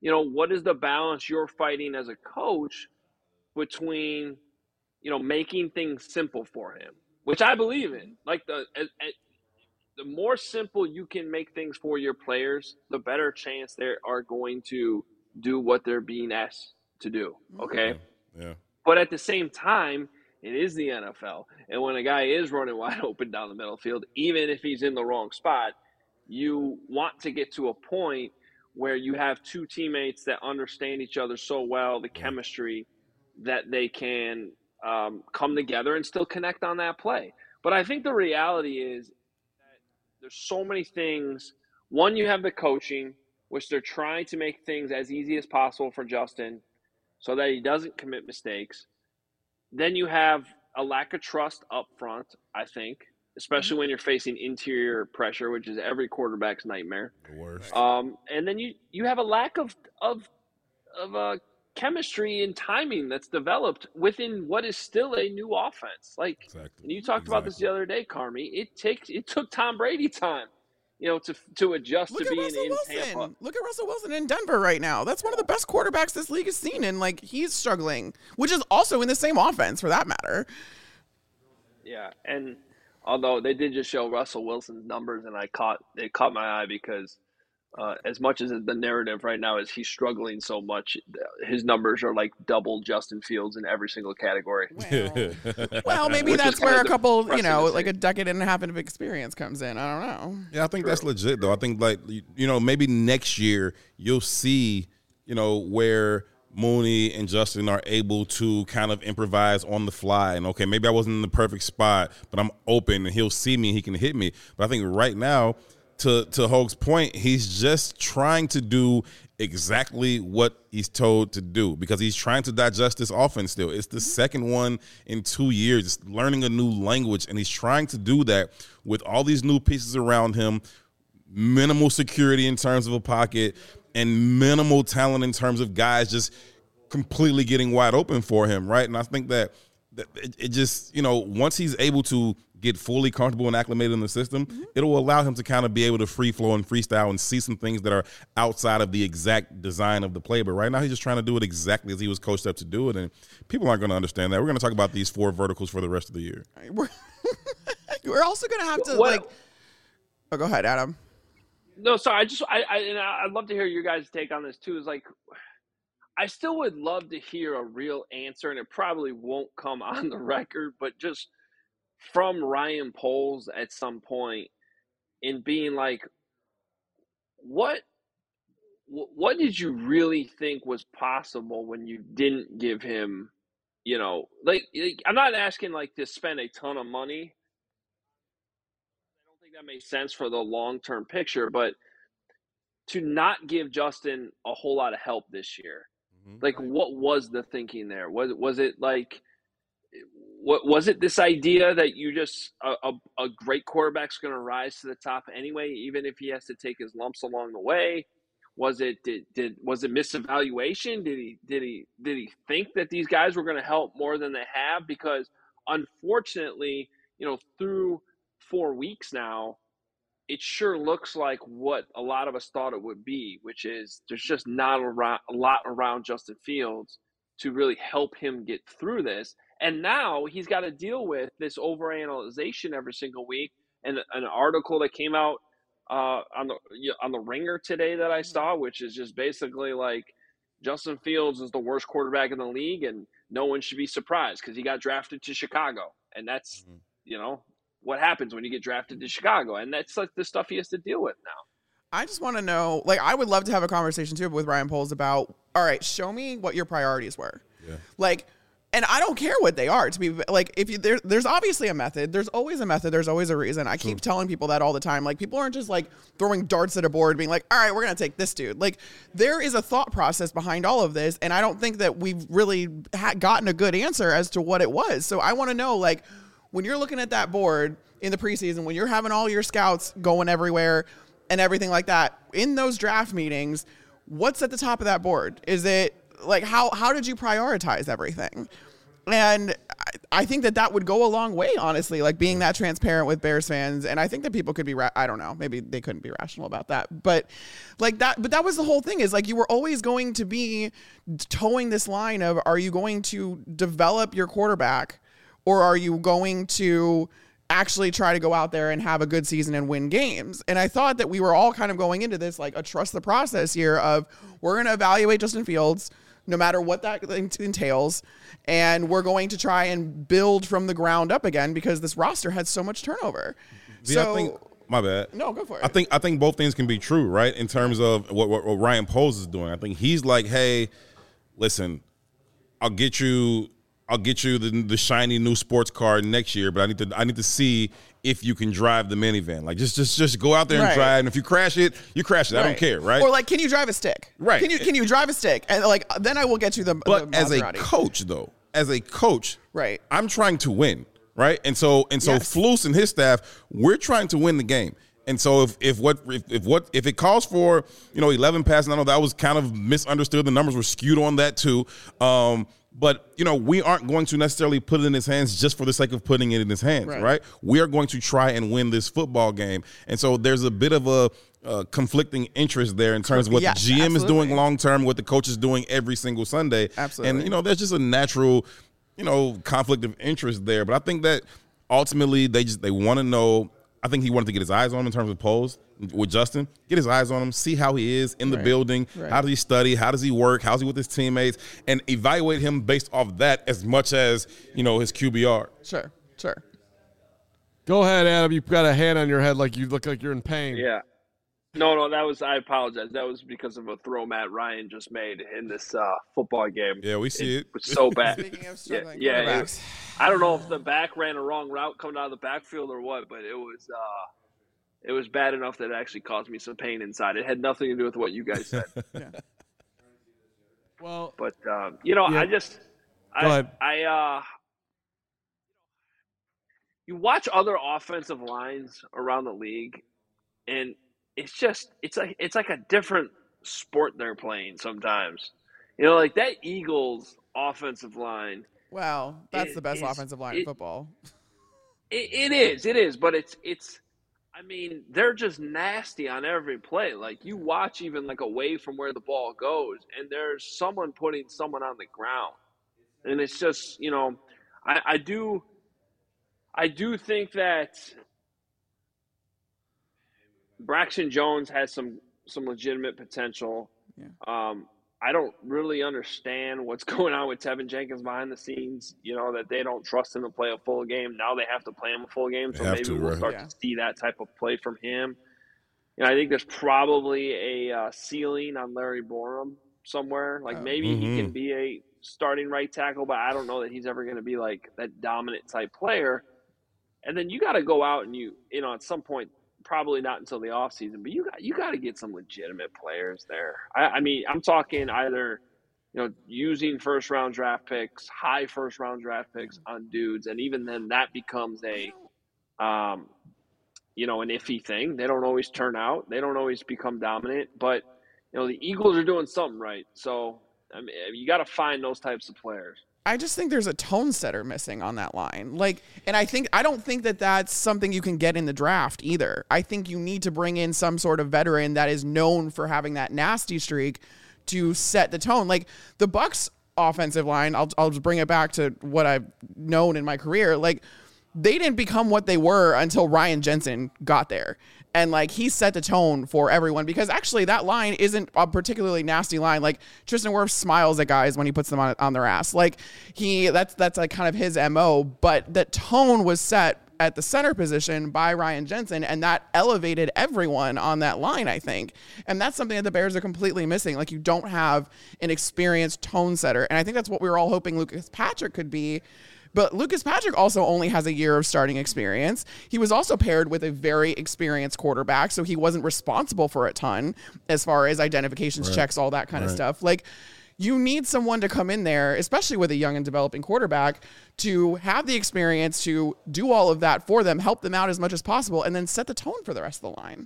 what is the balance you're fighting as a coach between, making things simple for him, which I believe in. Like the more simple you can make things for your players, the better chance they are going to do what they're being asked to do. Okay. Yeah. But at the same time, it is the NFL. And when a guy is running wide open down the middle field, even if he's in the wrong spot, you want to get to a point where you have two teammates that understand each other so well, the chemistry, that they can come together and still connect on that play. But I think the reality is that there's so many things. One, you have the coaching, which they're trying to make things as easy as possible for Justin so that he doesn't commit mistakes. Then you have a lack of trust up front, I think, especially when you're facing interior pressure, which is every quarterback's nightmare. The worst. And then you have a lack of chemistry and timing that's developed within what is still a new offense. Like, and you talked about this the other day, Carmi. It took Tom Brady time, to adjust to being in Tampa. Look at Russell Wilson in Denver right now. That's one of the best quarterbacks this league has seen, and he's struggling, which is also in the same offense for that matter. Yeah, and although they did just show Russell Wilson's numbers, and it caught my eye because as much as the narrative right now is he's struggling so much, his numbers are like double Justin Fields in every single category. Well, maybe that's where a couple, like a decade and a half of experience comes in. I don't know. Yeah, I think that's legit, though. I think, maybe next year you'll see, where Mooney and Justin are able to kind of improvise on the fly. And, okay, maybe I wasn't in the perfect spot, but I'm open and he'll see me and he can hit me. But I think right now, to Hoge's point, he's just trying to do exactly what he's told to do because he's trying to digest this offense still. It's the second one in 2 years. It's learning a new language, and he's trying to do that with all these new pieces around him, minimal security in terms of a pocket, and minimal talent in terms of guys just completely getting wide open for him, right? And I think that it just, once he's able to get fully comfortable and acclimated in the system, it'll allow him to kind of be able to free flow and freestyle and see some things that are outside of the exact design of the play. But right now he's just trying to do it exactly as he was coached up to do it, and people aren't going to understand that. We're going to talk about these 4 verticals for the rest of the year. We're also going to have to, oh, go ahead, Adam. No, sorry. I'd love to hear your guys' take on this too. Is I still would love to hear a real answer, and it probably won't come on the record, but just from Ryan Poles at some point in being like, what did you really think was possible when you didn't give him, I'm not asking to spend a ton of money. I don't think that makes sense for the long-term picture, but to not give Justin a whole lot of help this year. What was the thinking there? Was it was it this idea that you just a great quarterback's going to rise to the top anyway, even if he has to take his lumps along the way? Was it misevaluation? Did he think that these guys were going to help more than they have? Because unfortunately, through 4 weeks now, it sure looks like what a lot of us thought it would be, which is there's just not a lot around Justin Fields to really help him get through this. And now he's got to deal with this overanalyzation every single week. And an article that came out on the Ringer today that I saw, which is just basically Justin Fields is the worst quarterback in the league, and no one should be surprised because he got drafted to Chicago. And that's, what happens when you get drafted to Chicago. And that's the stuff he has to deal with now. I just want to know, I would love to have a conversation too with Ryan Poles about, all right, show me what your priorities were. Yeah. And I don't care what they are, to be there's obviously a method. There's always a method. There's always a reason. I keep telling people that all the time. People aren't just throwing darts at a board being like, all right, we're going to take this dude. There is a thought process behind all of this. And I don't think that we've really gotten a good answer as to what it was. So I want to know, when you're looking at that board in the preseason, when you're having all your scouts going everywhere and everything like that, in those draft meetings, what's at the top of that board? Is it how did you prioritize everything? And I think that would go a long way, honestly, like being that transparent with Bears fans. And I think that people could be, I don't know, maybe they couldn't be rational about that. But like that was the whole thing, is like you were always going to be towing this line of, are you going to develop your quarterback, or are you going to actually try to go out there and have a good season and win games? And I thought that we were all kind of going into this like a trust the process here of, we're going to evaluate Justin Fields no matter what that entails, and we're going to try and build from the ground up again, because this roster had so much turnover. I think, my bad. No, go for it. I think both things can be true, right? In terms of what Ryan Poles is doing. I think he's like, hey, listen, I'll get you the shiny new sports car next year, but I need to see if you can drive the minivan. Like just go out there and drive, and if you crash it, you crash it. I don't care, right? Or like, can you drive a stick? Right. Can you drive a stick? And like, then I will get you the. But the as a Maserati. coach, right? I'm trying to win, right? And so yes. Flus and his staff, we're trying to win the game. And so if it calls for 11 passes, I know that was kind of misunderstood. The numbers were skewed on that too. But, we aren't going to necessarily put it in his hands just for the sake of putting it in his hands, right? We are going to try and win this football game. And so there's a bit of a conflicting interest there in terms of what the GM is doing long-term, what the coach is doing every single Sunday. Absolutely. And, there's just a natural, conflict of interest there. But I think that ultimately they want to know. I think he wanted to get his eyes on him in terms of Poles with Justin. Get his eyes on him, see how he is in the building. Right. How does he study? How does he work? How's he with his teammates? And evaluate him based off that as much as, his QBR. Sure. Go ahead, Adam. You've got a hand on your head like you look like you're in pain. Yeah. No, I apologize. That was because of a throw Matt Ryan just made in this football game. Yeah, we see it. It was so bad. Speaking of struggling quarterbacks. I don't know if the back ran a wrong route coming out of the backfield or what, but it was bad enough that it actually caused me some pain inside. It had nothing to do with what you guys said. Yeah. Well, but you watch other offensive lines around the league, and it's like a different sport they're playing sometimes. Like that Eagles offensive line. Wow, that's the best offensive line in football. It is, but it's. I mean, they're just nasty on every play. Like you watch even like away from where the ball goes, and there's someone putting someone on the ground, and it's just I do think that Braxton Jones has some legitimate potential. Yeah. I don't really understand what's going on with Tevin Jenkins behind the scenes, that they don't trust him to play a full game. Now they have to play him a full game, so maybe we'll start to see that type of play from him. I think there's probably a ceiling on Larry Borum somewhere. Like maybe he can be a starting right tackle, but I don't know that he's ever going to be like that dominant type player. And then you got to go out and at some point, probably not until the offseason, but you got to get some legitimate players there. I mean, I'm talking either, using first round draft picks, high first round draft picks on dudes, and even then that becomes an iffy thing. They don't always turn out. They don't always become dominant, but the Eagles are doing something right. So I mean, you got to find those types of players. I just think there's a tone setter missing on that line. And I don't think that that's something you can get in the draft either. I think you need to bring in some sort of veteran that is known for having that nasty streak to set the tone. Like the Bucs offensive line, I'll just bring it back to what I've known in my career. Like they didn't become what they were until Ryan Jensen got there. And like he set the tone for everyone, because actually that line isn't a particularly nasty line. Like Tristan Wirfs smiles at guys when he puts them on their ass. Like that's like kind of his MO, but that tone was set at the center position by Ryan Jensen, and that elevated everyone on that line, I think. And that's something that the Bears are completely missing. Like you don't have an experienced tone setter. And I think that's what we were all hoping Lucas Patrick could be. But Lucas Patrick also only has a year of starting experience. He was also paired with a very experienced quarterback, so he wasn't responsible for a ton as far as identifications, checks, all that kind of stuff. Like, you need someone to come in there, especially with a young and developing quarterback, to have the experience to do all of that for them, help them out as much as possible, and then set the tone for the rest of the line.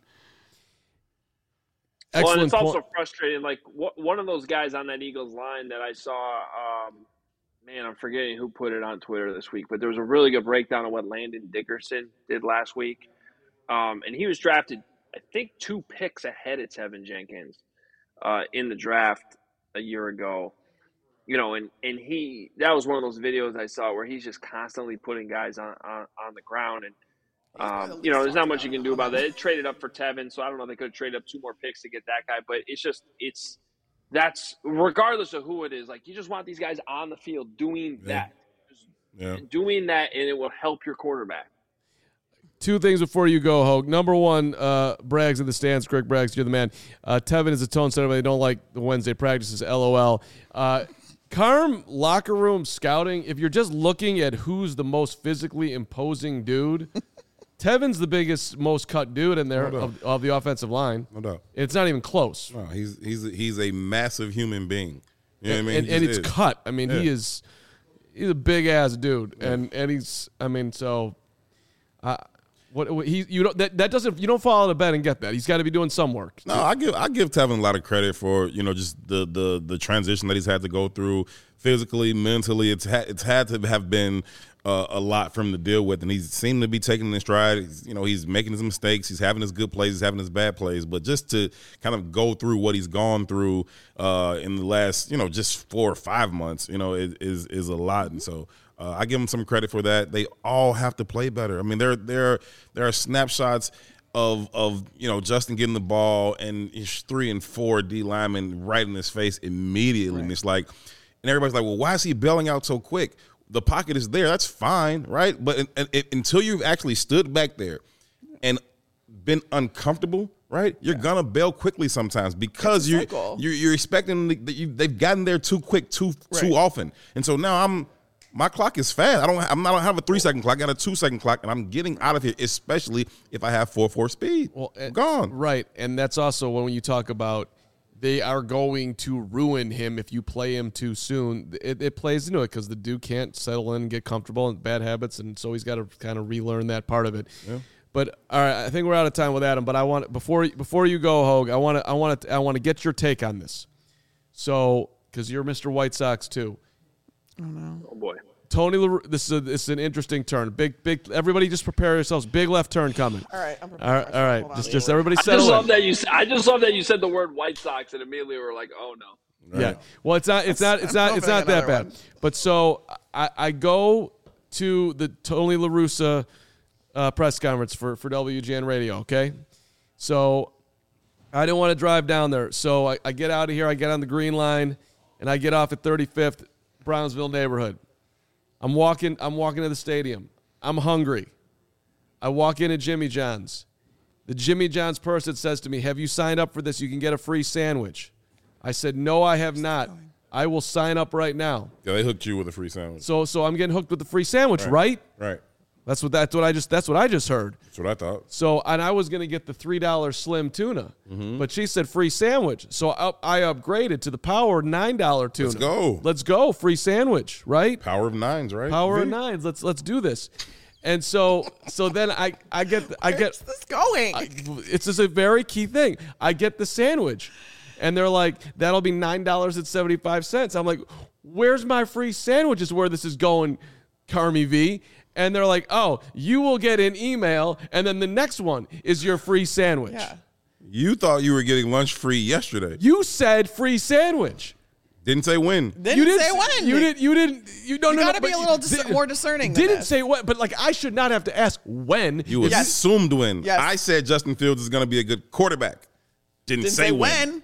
Well, and it's also frustrating. Like one of those guys on that Eagles line that I saw man, I'm forgetting who put it on Twitter this week, but there was a really good breakdown of what Landon Dickerson did last week. And he was drafted, I think, 2 picks ahead of Tevin Jenkins in the draft a year ago. You know, and that was one of those videos I saw where he's just constantly putting guys on the ground. And, you know, there's not much you can do about that. It traded up for Tevin, so I don't know if they could have traded up 2 more picks to get that guy. But that's regardless of who it is. Like, you just want these guys on the field doing that. Doing that, and it will help your quarterback. 2 things before you go, Hogue. Number 1, Braggs in the stands. Greg Braggs, you're the man. Tevin is a tone setter, but they don't like the Wednesday practices. LOL. Carm locker room scouting, if you're just looking at who's the most physically imposing dude, Tevin's the biggest, most cut dude in there of the offensive line. No doubt. It's not even close. No, he's a massive human being. You know what I mean? And it's cut. I mean, he's a big ass dude, and he's. I mean, so. You don't fall out of bed and get that. He's got to be doing some work. No, I give Tevin a lot of credit for, you know, just the transition that he's had to go through physically, mentally. It's had to have been a lot for him to deal with, and he seemed to be taking it in stride. He's making his mistakes. He's having his good plays. He's having his bad plays. But just to kind of go through what he's gone through in the last, just 4 or 5 months, is a lot. And so I give him some credit for that. They all have to play better. I mean, there are snapshots of Justin getting the ball and his 3 and 4 D linemen right in his face immediately. Right. And it's like, and everybody's like, well, why is he bailing out so quick? The pocket is there. That's fine, right? But until you've actually stood back there and been uncomfortable, right, you're going to bail quickly sometimes because you're expecting they've gotten there too quick, too often. And so now my clock is fast. I don't have a 3-second clock. I got a 2-second clock, and I'm getting out of here, especially if I have 4.4 speed. Well, I'm gone. Right, and that's also when you talk about they are going to ruin him if you play him too soon. It plays into it because the dude can't settle in and get comfortable and bad habits, and so he's got to kind of relearn that part of it. Yeah. But all right, I think we're out of time with Adam. But I want before you go, Hogue, I want to get your take on this. So because you're Mr. White Sox too. Oh no! Oh boy! Tony LaRue, this is an interesting turn. Big. Everybody, just prepare yourselves. Big left turn coming. All right, I'm prepared. All right. Just everybody settle in. I just love that you said the word White Sox, and immediately we're like, oh no. Right. Yeah. Well, it's not that bad. But so I go to the Tony La Russa press conference for WGN Radio. Okay. So I didn't want to drive down there, so I get out of here. I get on the green line, and I get off at 35th Brownsville neighborhood. I'm walking to the stadium. I'm hungry. I walk in at Jimmy John's. The Jimmy John's person says to me, "Have you signed up for this? You can get a free sandwich." I said, "No, I have not. I will sign up right now." Yeah, they hooked you with a free sandwich. So I'm getting hooked with the free sandwich, right? Right. That's what I just heard. That's what I thought. So, and I was going to get the $3 slim tuna, but she said free sandwich. So I upgraded to the power $9 tuna. Let's go. Free sandwich, right? Power of 9s, right? Power of 9s. Let's do this. And so then I get Where's this going? It's just a very key thing. I get the sandwich, and they're like, that'll be $9.75. I'm like, where's my free sandwich? Is where this is going, Carmi V. And they're like, oh, you will get an email, and then the next one is your free sandwich. Yeah. You thought you were getting lunch free yesterday. You said free sandwich. Didn't say when. Didn't say when. You didn't. You got to be a little more discerning. Didn't say when, but like I should not have to ask when. You assumed when. Yes. I said Justin Fields is going to be a good quarterback. Didn't say when.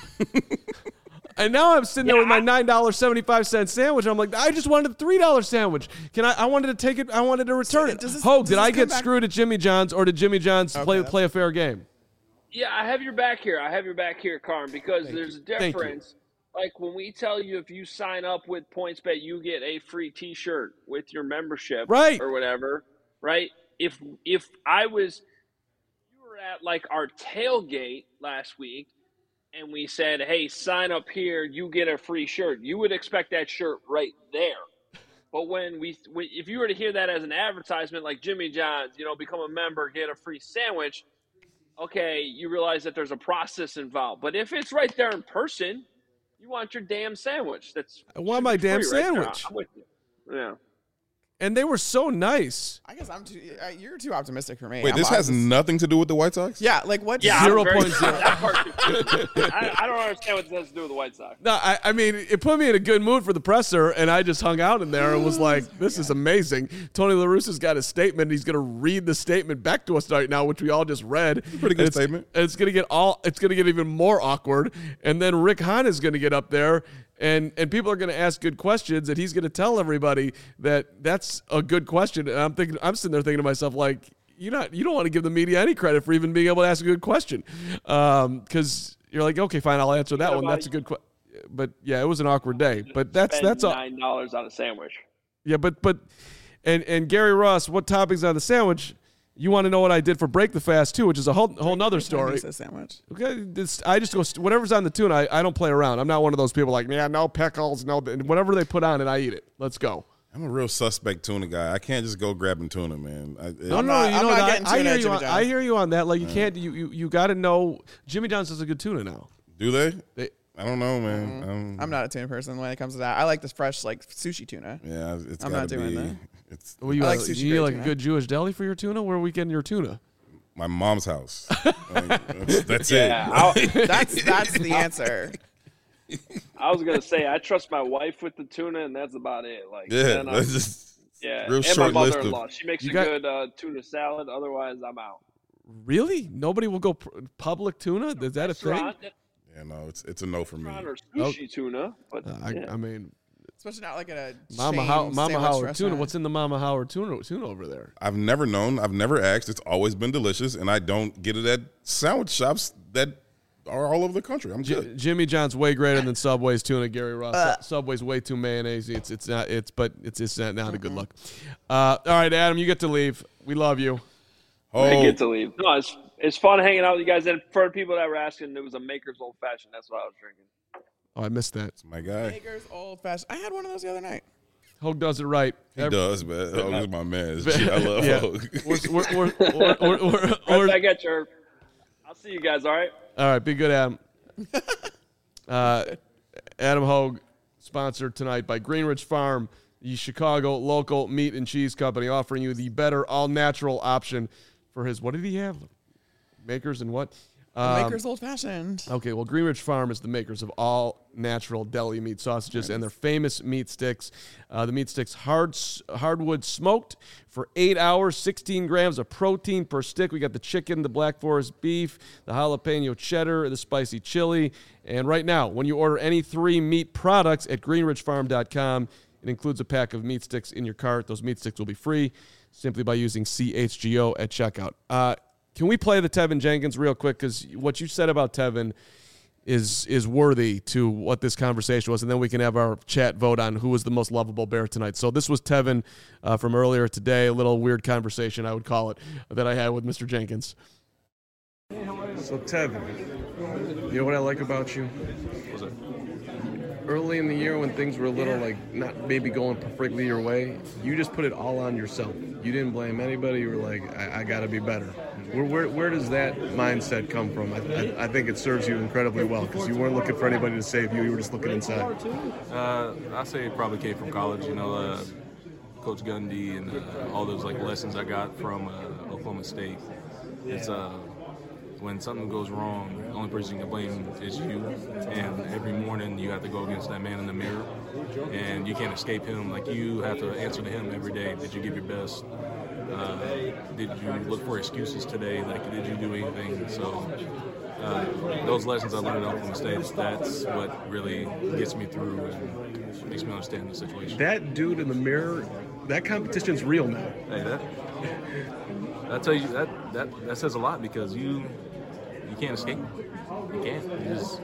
And now I'm sitting there with my $9.75 sandwich. I'm like, I just wanted a $3 sandwich. I wanted to take it. I wanted to return it. Hogue, did I get screwed at Jimmy John's, or did Jimmy John's play a fair game? Yeah, I have your back here, Carm, because there's a difference. Like when we tell you if you sign up with PointsBet, you get a free T-shirt with your membership, right, or whatever, right? If you were at like our tailgate last week, and we said, hey, sign up here, you get a free shirt, you would expect that shirt right there. But if you were to hear that as an advertisement, like Jimmy John's, become a member, get a free sandwich, okay, you realize that there's a process involved. But if it's right there in person, You want your damn sandwich. I want my damn free right there. sandwich. I'm with you. Yeah. And they were so nice. I guess you're too optimistic for me. Wait, this has nothing to do with the White Sox? Yeah, like what? Yeah, 0.0. I don't understand what this has to do with the White Sox. No, I mean, it put me in a good mood for the presser, and I just hung out in there and was like, this is amazing. Tony La Russa's got a statement. He's going to read the statement back to us right now, which we all just read. Pretty good statement. And it's going to get even more awkward. And then Rick Hahn is going to get up there, and people are going to ask good questions, and he's going to tell everybody that that's a good question. And I'm sitting there thinking to myself, like, you don't want to give the media any credit for even being able to ask a good question, because you're like, okay, fine, I'll answer that one. That's a good question. But yeah, it was an awkward day. But that's all. $9 on a sandwich. Yeah, but and Gary Ross, what toppings on the sandwich? You want to know what I did for Break the Fast too, which is a whole nother story. Sandwich. Okay, I just go whatever's on the tuna. I don't play around. I'm not one of those people like, yeah, no pickles, no whatever they put on it, I eat it. Let's go. I'm a real suspect tuna guy. I can't just go grabbing tuna, man. I hear you on that. Like you can't. You got to know. Jimmy John's is a good tuna now. Do they? I don't know, man. I'm not a tuna person when it comes to that. I like this fresh, like sushi tuna. Yeah, I'm not doing that. Well, you like sushi. You like a good Jewish deli for your tuna? Where are we getting your tuna? My mom's house. That's yeah, it. That's the answer. I was gonna say I trust my wife with the tuna, and that's about it. Like, yeah, that's just real and short my mother-in-law. She makes good tuna salad. Otherwise, I'm out. Really? Nobody will go public tuna? Is that a thing? Yeah, no, it's a no for me. Or sushi tuna, but I mean, especially not like in a Mama Howard tuna. What's in the Mama Howard tuna over there? I've never known. I've never asked. It's always been delicious, and I don't get it at sandwich shops that are all over the country. I'm good. Jimmy John's way greater than Subway's tuna. Gary Ross. Subway's way too mayonnaise. It's not a good look. All right, Adam, you get to leave. We love you. I get to leave. No, it's fun hanging out with you guys. And for the people that were asking, it was a Maker's Old Fashioned. That's what I was drinking. Oh, I missed that. It's my guy. Maker's Old Fashioned. I had one of those the other night. Hogue does it right. He does, man. Hogue is my man. I love Hogue. I got your. I'll see you guys. All right. All right. Be good, Adam. Adam Hogue, sponsored tonight by Greenridge Farm, the Chicago local meat and cheese company, offering you the better all-natural option for his. What did he have? Makers and what? Maker's Old Fashioned. Okay, well, Greenridge Farm is the makers of all natural deli meat sausages and their famous meat sticks. The meat sticks, hardwood smoked for 8 hours, 16 grams of protein per stick. We got the chicken, the Black Forest beef, the jalapeno cheddar, the spicy chili. And right now, when you order any 3 meat products at greenridgefarm.com, it includes a pack of meat sticks in your cart. Those meat sticks will be free simply by using CHGO at checkout. Can we play the Tevin Jenkins real quick? Because what you said about Tevin is worthy to what this conversation was, and then we can have our chat vote on who was the most lovable Bear tonight. So this was Tevin from earlier today, a little weird conversation, I would call it, that I had with Mr. Jenkins. So Tevin, you know what I like about you? What's it? Early in the year when things were a little like not maybe going perfectly your way, you just put it all on yourself. You didn't blame anybody. You were like, I got to be better. Where does that mindset come from? I think it serves you incredibly well because you weren't looking for anybody to save you. You were just looking inside. I say it probably came from college. You know, Coach Gundy and all those like lessons I got from Oklahoma State. It's when something goes wrong, the only person you can blame is you. And every morning you have to go against that man in the mirror, and you can't escape him. Like, you have to answer to him every day. Did you give your best? Did you look for excuses today? Like, did you do anything? So those lessons I learned at Oklahoma State, that's what really gets me through and makes me understand the situation. That dude in the mirror, that competition's real now. Hey, that tell you that says a lot, because you can't escape. You can't. You just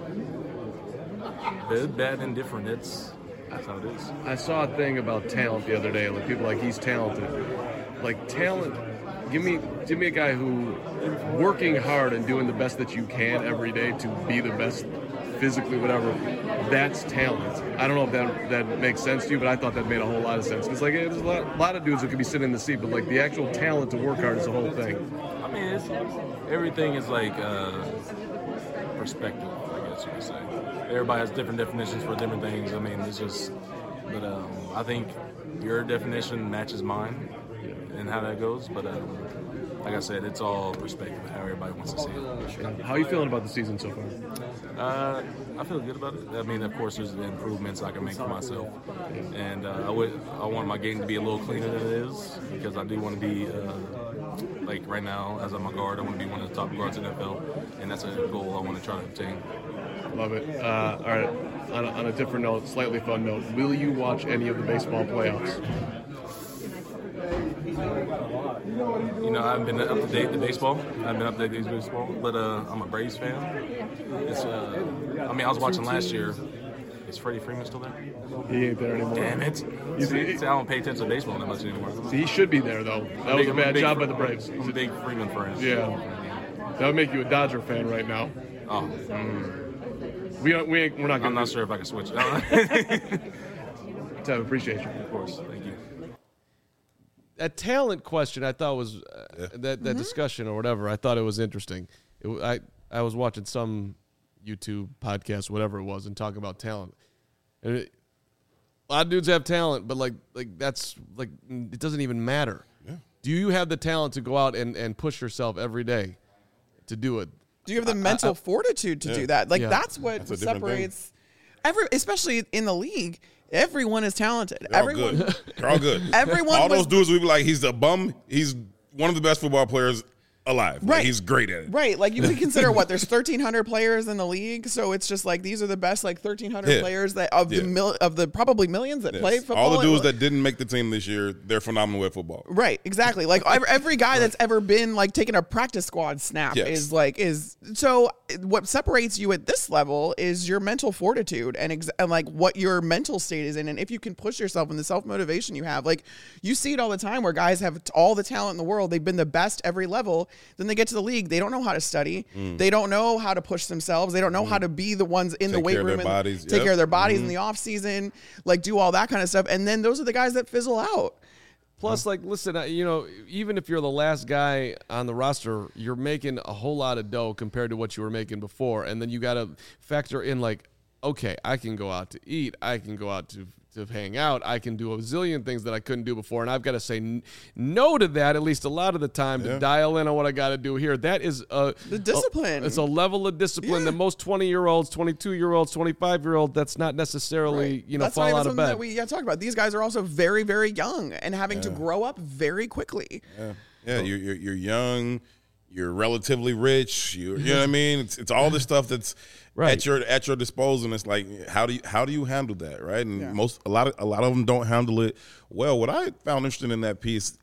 good, bad, and different. That's how it is. I saw a thing about talent the other day. Like, people like, he's talented. Like, talent. Give me a guy who working hard and doing the best that you can every day to be the best physically, whatever. That's talent. I don't know if that makes sense to you, but I thought that made a whole lot of sense. Because, like, there's a lot of dudes that could be sitting in the seat, but, like, the actual talent to work hard is the whole thing. I mean, everything is like perspective, I guess you could say. everybody has different definitions for different things. I mean, it's just, but I think your definition matches mine and how that goes. But like I said, it's all perspective of how everybody wants to see it. How are you feeling about the season so far? I feel good about it. I mean, of course, there's improvements I can make for myself, and I want my game to be a little cleaner than it is, because I do want to be like right now, as I'm a guard, I want to be one of the top guards in the NFL, and that's a goal I want to try to obtain. Love it. All right. On a different note, slightly fun note, will you watch any of the baseball playoffs? You know, I haven't been up to date with baseball. I haven't been up to date with baseball, but I'm a Braves fan. It's, I mean, I was watching last year. Is Freddie Freeman still there? He ain't there anymore. Damn it. See, I don't pay attention to baseball that much anymore. See, he should be there, though. That was a bad job by the Braves. I'm a big Freeman fan. Yeah. That would make you a Dodger fan right now. Oh. We're not gonna. I'm not sure if I can switch. Tab, appreciate you. Of course. Thank you. That talent question, I thought was that discussion or whatever. I thought it was interesting. I was watching some YouTube podcast, whatever it was, and talking about talent. And a lot of dudes have talent, but like that's like it doesn't even matter. Yeah. Do you have the talent to go out and push yourself every day to do it? Do you have the mental fortitude to do that? Like that's what separates especially in the league. Everyone is talented. They're all good. Everyone. All those dudes would be like, he's a bum. He's one of the best football players alive. Right. Like, he's great at it. Right. Like you would consider there's 1,300 players in the league. So it's just like, these are the best, like 1,300 players that of the probably millions that play football. All the dudes that didn't make the team this year, they're phenomenal at football. Right. Exactly. Like every guy that's ever been like taking a practice squad snap is so what separates you at this level is your mental fortitude and like what your mental state is in. And if you can push yourself and the self-motivation you have, like you see it all the time where guys have all the talent in the world. They've been the best every level. Then they get to the league. They don't know how to study. They don't know how to push themselves. They don't know how to be the ones in the weight room and take care of their bodies in the off season, like do all that kind of stuff. And then those are the guys that fizzle out. Plus, like, listen, you know, even if you're the last guy on the roster, you're making a whole lot of dough compared to what you were making before. And then you got to factor in, like, okay, I can go out to eat. I can go out to hang out. I can do a zillion things that I couldn't do before. And I've got to say no to that at least a lot of the time to dial in on what I got to do here. That is the discipline. It's a level of discipline that most 20-year-olds, 22-year-olds, 25-year-olds, that's not necessarily, that's fall out of bed. That we talk about. These guys are also very, very young and having to grow up very quickly. Yeah, you're young. You're relatively rich. You know what I mean? It's all this stuff that's at your disposal. And it's like, how do you handle that, right? And a lot of them don't handle it well. What I found interesting in that piece,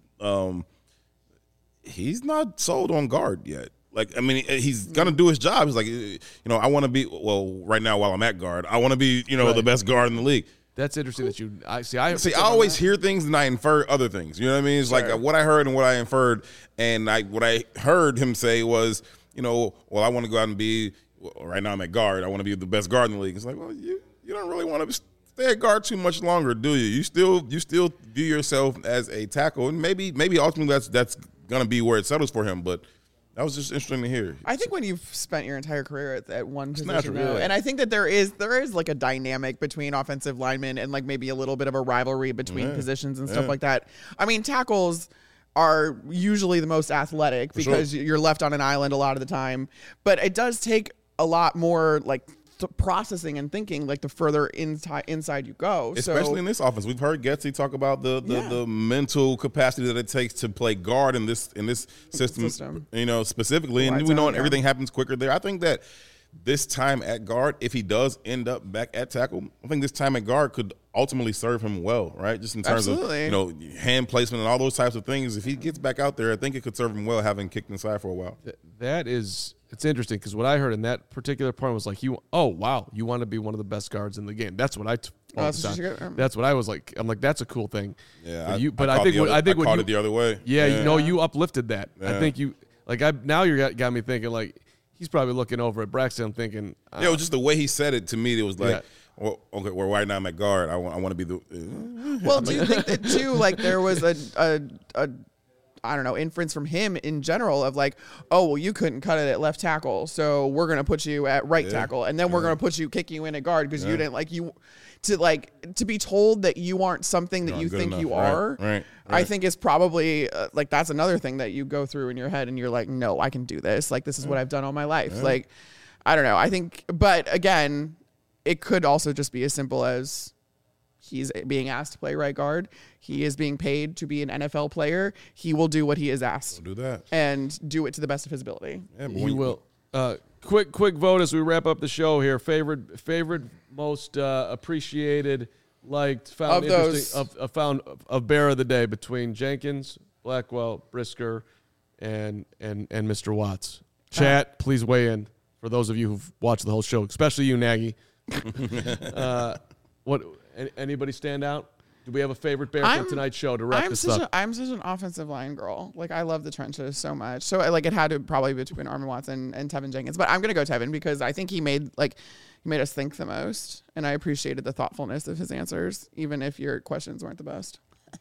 he's not sold on guard yet. Like, I mean, he's gonna do his job. He's like, I want to be right now while I'm at guard. I want to be the best guard in the league. That's interesting that you. I always hear things and I infer other things. You know what I mean? It's like what I heard and what I inferred, and what I heard him say was, well, I want to go out and be. Right now I'm at guard. I want to be the best guard in the league. It's like, well, you don't really want to stay at guard too much longer, do you? You still view yourself as a tackle, and maybe ultimately that's gonna be where it settles for him, but. That was just interesting to hear. I think when you've spent your entire career at one position, and I think that there is like a dynamic between offensive linemen and like maybe a little bit of a rivalry between positions and stuff like that. I mean, tackles are usually the most athletic because you're left on an island a lot of the time, but it does take a lot more like processing and thinking like the further inside you go, especially in this offense. We've heard Getsy talk about the mental capacity that it takes to play guard in this system. Specifically, and we know everything happens quicker there. I think that this time at guard, if he does end up back at tackle, I think this time at guard could ultimately serve him well, right? Just in terms of hand placement and all those types of things. If he gets back out there, I think it could serve him well, having kicked inside for a while. It's interesting because what I heard in that particular point was like, you want to be one of the best guards in the game. That's what that's what I was like. I'm like, that's a cool thing. Yeah, I think I caught it the other way. Yeah, you uplifted that. Yeah. I think you now you got me thinking like he's probably looking over at Braxton thinking. It was just the way he said it to me. It was like. Yeah. Well, okay, well, right now I'm at guard. I want to be the. Well, do you think that too? Like there was a I don't know, inference from him in general of like, oh, well, you couldn't cut it at left tackle, so we're going to put you at right tackle, and then we're going to put you, kick you in at guard because you didn't to be told that you aren't something that you think enough. You are. Right. I think is probably like, that's another thing that you go through in your head and you're like, no, I can do this. Like, this is what I've done all my life. Yeah. Like, I don't know. I think, but again, it could also just be as simple as he's being asked to play right guard. He is being paid to be an NFL player. He will do what he is asked. We'll do that. And do it to the best of his ability. Yeah, he will. Quick vote as we wrap up the show here. Favorite, most appreciated, liked, found interesting of Bear of the Day between Jenkins, Blackwell, Brisker, and Mr. Watts. Chat, please weigh in. For those of you who've watched the whole show, especially you, Nagy. Anybody stand out? Do we have a favorite Bear from tonight's show to wrap this up? I'm such an offensive line girl. Like, I love the trenches so much. So, like, it had to probably be between Armin Watson and Tevin Jenkins. But I'm going to go Tevin because I think he made us think the most. And I appreciated the thoughtfulness of his answers, even if your questions weren't the best.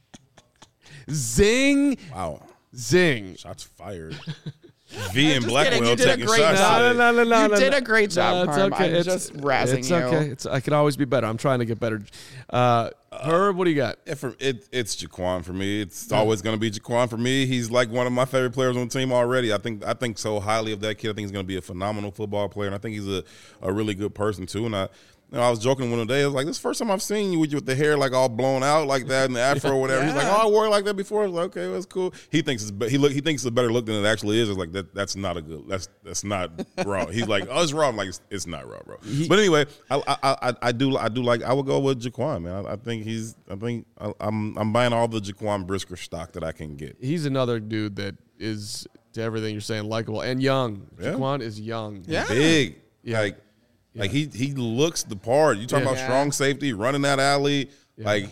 Zing. Wow. Zing. Shots fired. V and Blackwell taking shots. No. You did a great job, Carm. Okay. I'm just razzing you. It's okay. I can always be better. I'm trying to get better. Herb, what do you got? It's Jaquan for me. It's always going to be Jaquan for me. He's like one of my favorite players on the team already. I think so highly of that kid. I think he's going to be a phenomenal football player, and I think he's a really good person too. And I was joking one day. I was like, "This is the first time I've seen you with the hair like all blown out like that and the afro or whatever." He's like, "Oh, I wore it like that before." I was like, "Okay, that's cool." He thinks it's a better look than it actually is. It's like that's not a good. That's not raw. He's like, "Oh, it's raw." I'm like, "It's not raw, bro." But anyway, I do like. I would go with Jaquan, man. I'm buying all the Jaquan Brisker stock that I can get. He's another dude that is, to everything you're saying, likable and young. Yeah. Jaquan is young, big, Like he looks the part. You talking about strong safety, running that alley. Yeah. Like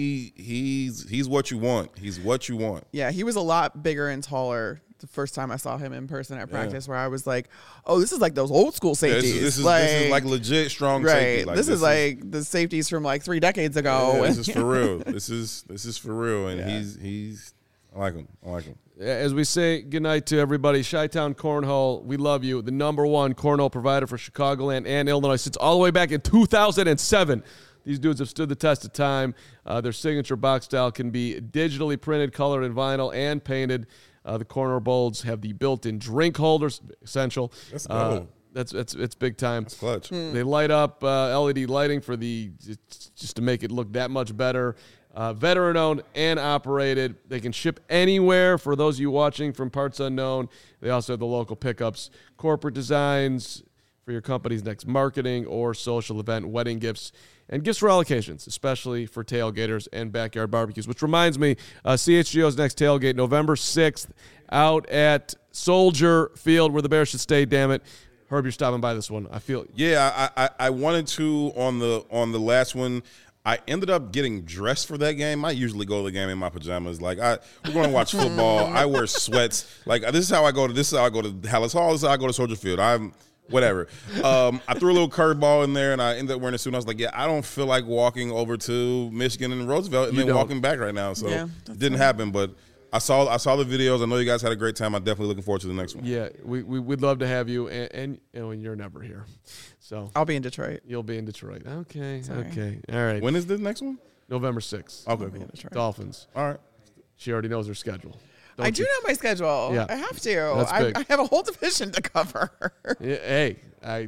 he's what you want. He's what you want. Yeah, he was a lot bigger and taller the first time I saw him in person at practice, where I was like, "Oh, this is like those old school safeties. Yeah, this is like legit strong safety. Like, this is like the safeties from like 3 decades ago. Yeah, this is for real. This is for real, and he's. I like him. As we say goodnight to everybody, Chi-Town Cornhole, we love you. The #1 cornhole provider for Chicagoland and Illinois since all the way back in 2007. These dudes have stood the test of time. Their signature box style can be digitally printed, colored in vinyl, and painted. The corner bowls have the built-in drink holders, essential. Let's go. It's big time. That's clutch. They light up LED lighting for just to make it look that much better. Veteran-owned and operated. They can ship anywhere for those of you watching from Parts Unknown. They also have the local pickups, corporate designs for your company's next marketing or social event, wedding gifts, and gifts for all occasions, especially for tailgaters and backyard barbecues. Which reminds me, CHGO's next tailgate, November 6th, out at Soldier Field, where the Bears should stay, damn it. Herb, you're stopping by this one. I feel. Yeah, I wanted to on the last one. I ended up getting dressed for that game. I usually go to the game in my pajamas. Like we're going to watch football. I wear sweats. Like this is how I go to Hallis Hall. This is how I go to Soldier Field. I'm whatever. I threw a little curveball in there, and I ended up wearing a suit. And I was like, yeah, I don't feel like walking over to Michigan and Roosevelt and then walking back right now. So it didn't happen. But I saw the videos. I know you guys had a great time. I'm definitely looking forward to the next one. Yeah, we'd love to have you, and you're never here. So I'll be in Detroit. You'll be in Detroit. Okay. Okay. All right. When is the next one? November 6th. Okay, cool. Dolphins. All right. She already knows her schedule. I do know my schedule. Yeah. I have to. I have a whole division to cover. Yeah, hey,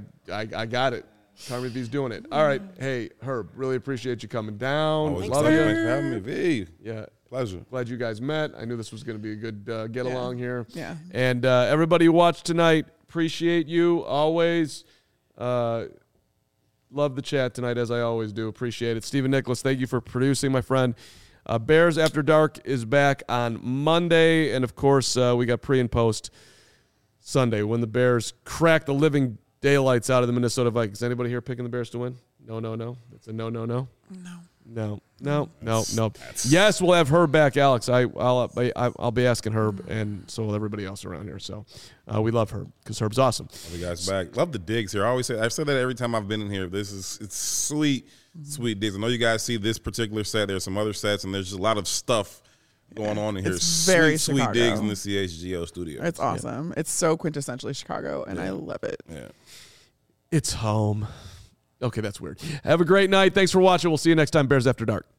I got it. Carmi V's doing it. All right. Hey, Herb, really appreciate you coming down. Thanks for having me, V. Yeah. Pleasure. Glad you guys met. I knew this was going to be a good get along here. Yeah. And everybody who watched tonight, appreciate you always. Love the chat tonight, as I always do. Appreciate it. Stephen Nicholas, thank you for producing, my friend. Bears After Dark is back on Monday. And, of course, we got pre and post Sunday when the Bears crack the living daylights out of the Minnesota Vikings. Anybody here picking the Bears to win? No. It's a no. No. Yes, we'll have Herb back, Alex. I'll be asking Herb, and so will everybody else around here. So we love Herb because Herb's awesome. Love you guys back. Love the digs here. I've said that every time I've been in here. It's sweet digs. I know you guys see this particular set. There's some other sets, and there's just a lot of stuff going on in here. It's very sweet Chicago. digs in the CHGO studio. It's awesome. It's so quintessentially Chicago, and I love it. Yeah. It's home. Okay, that's weird. Have a great night. Thanks for watching. We'll see you next time, Bears After Dark.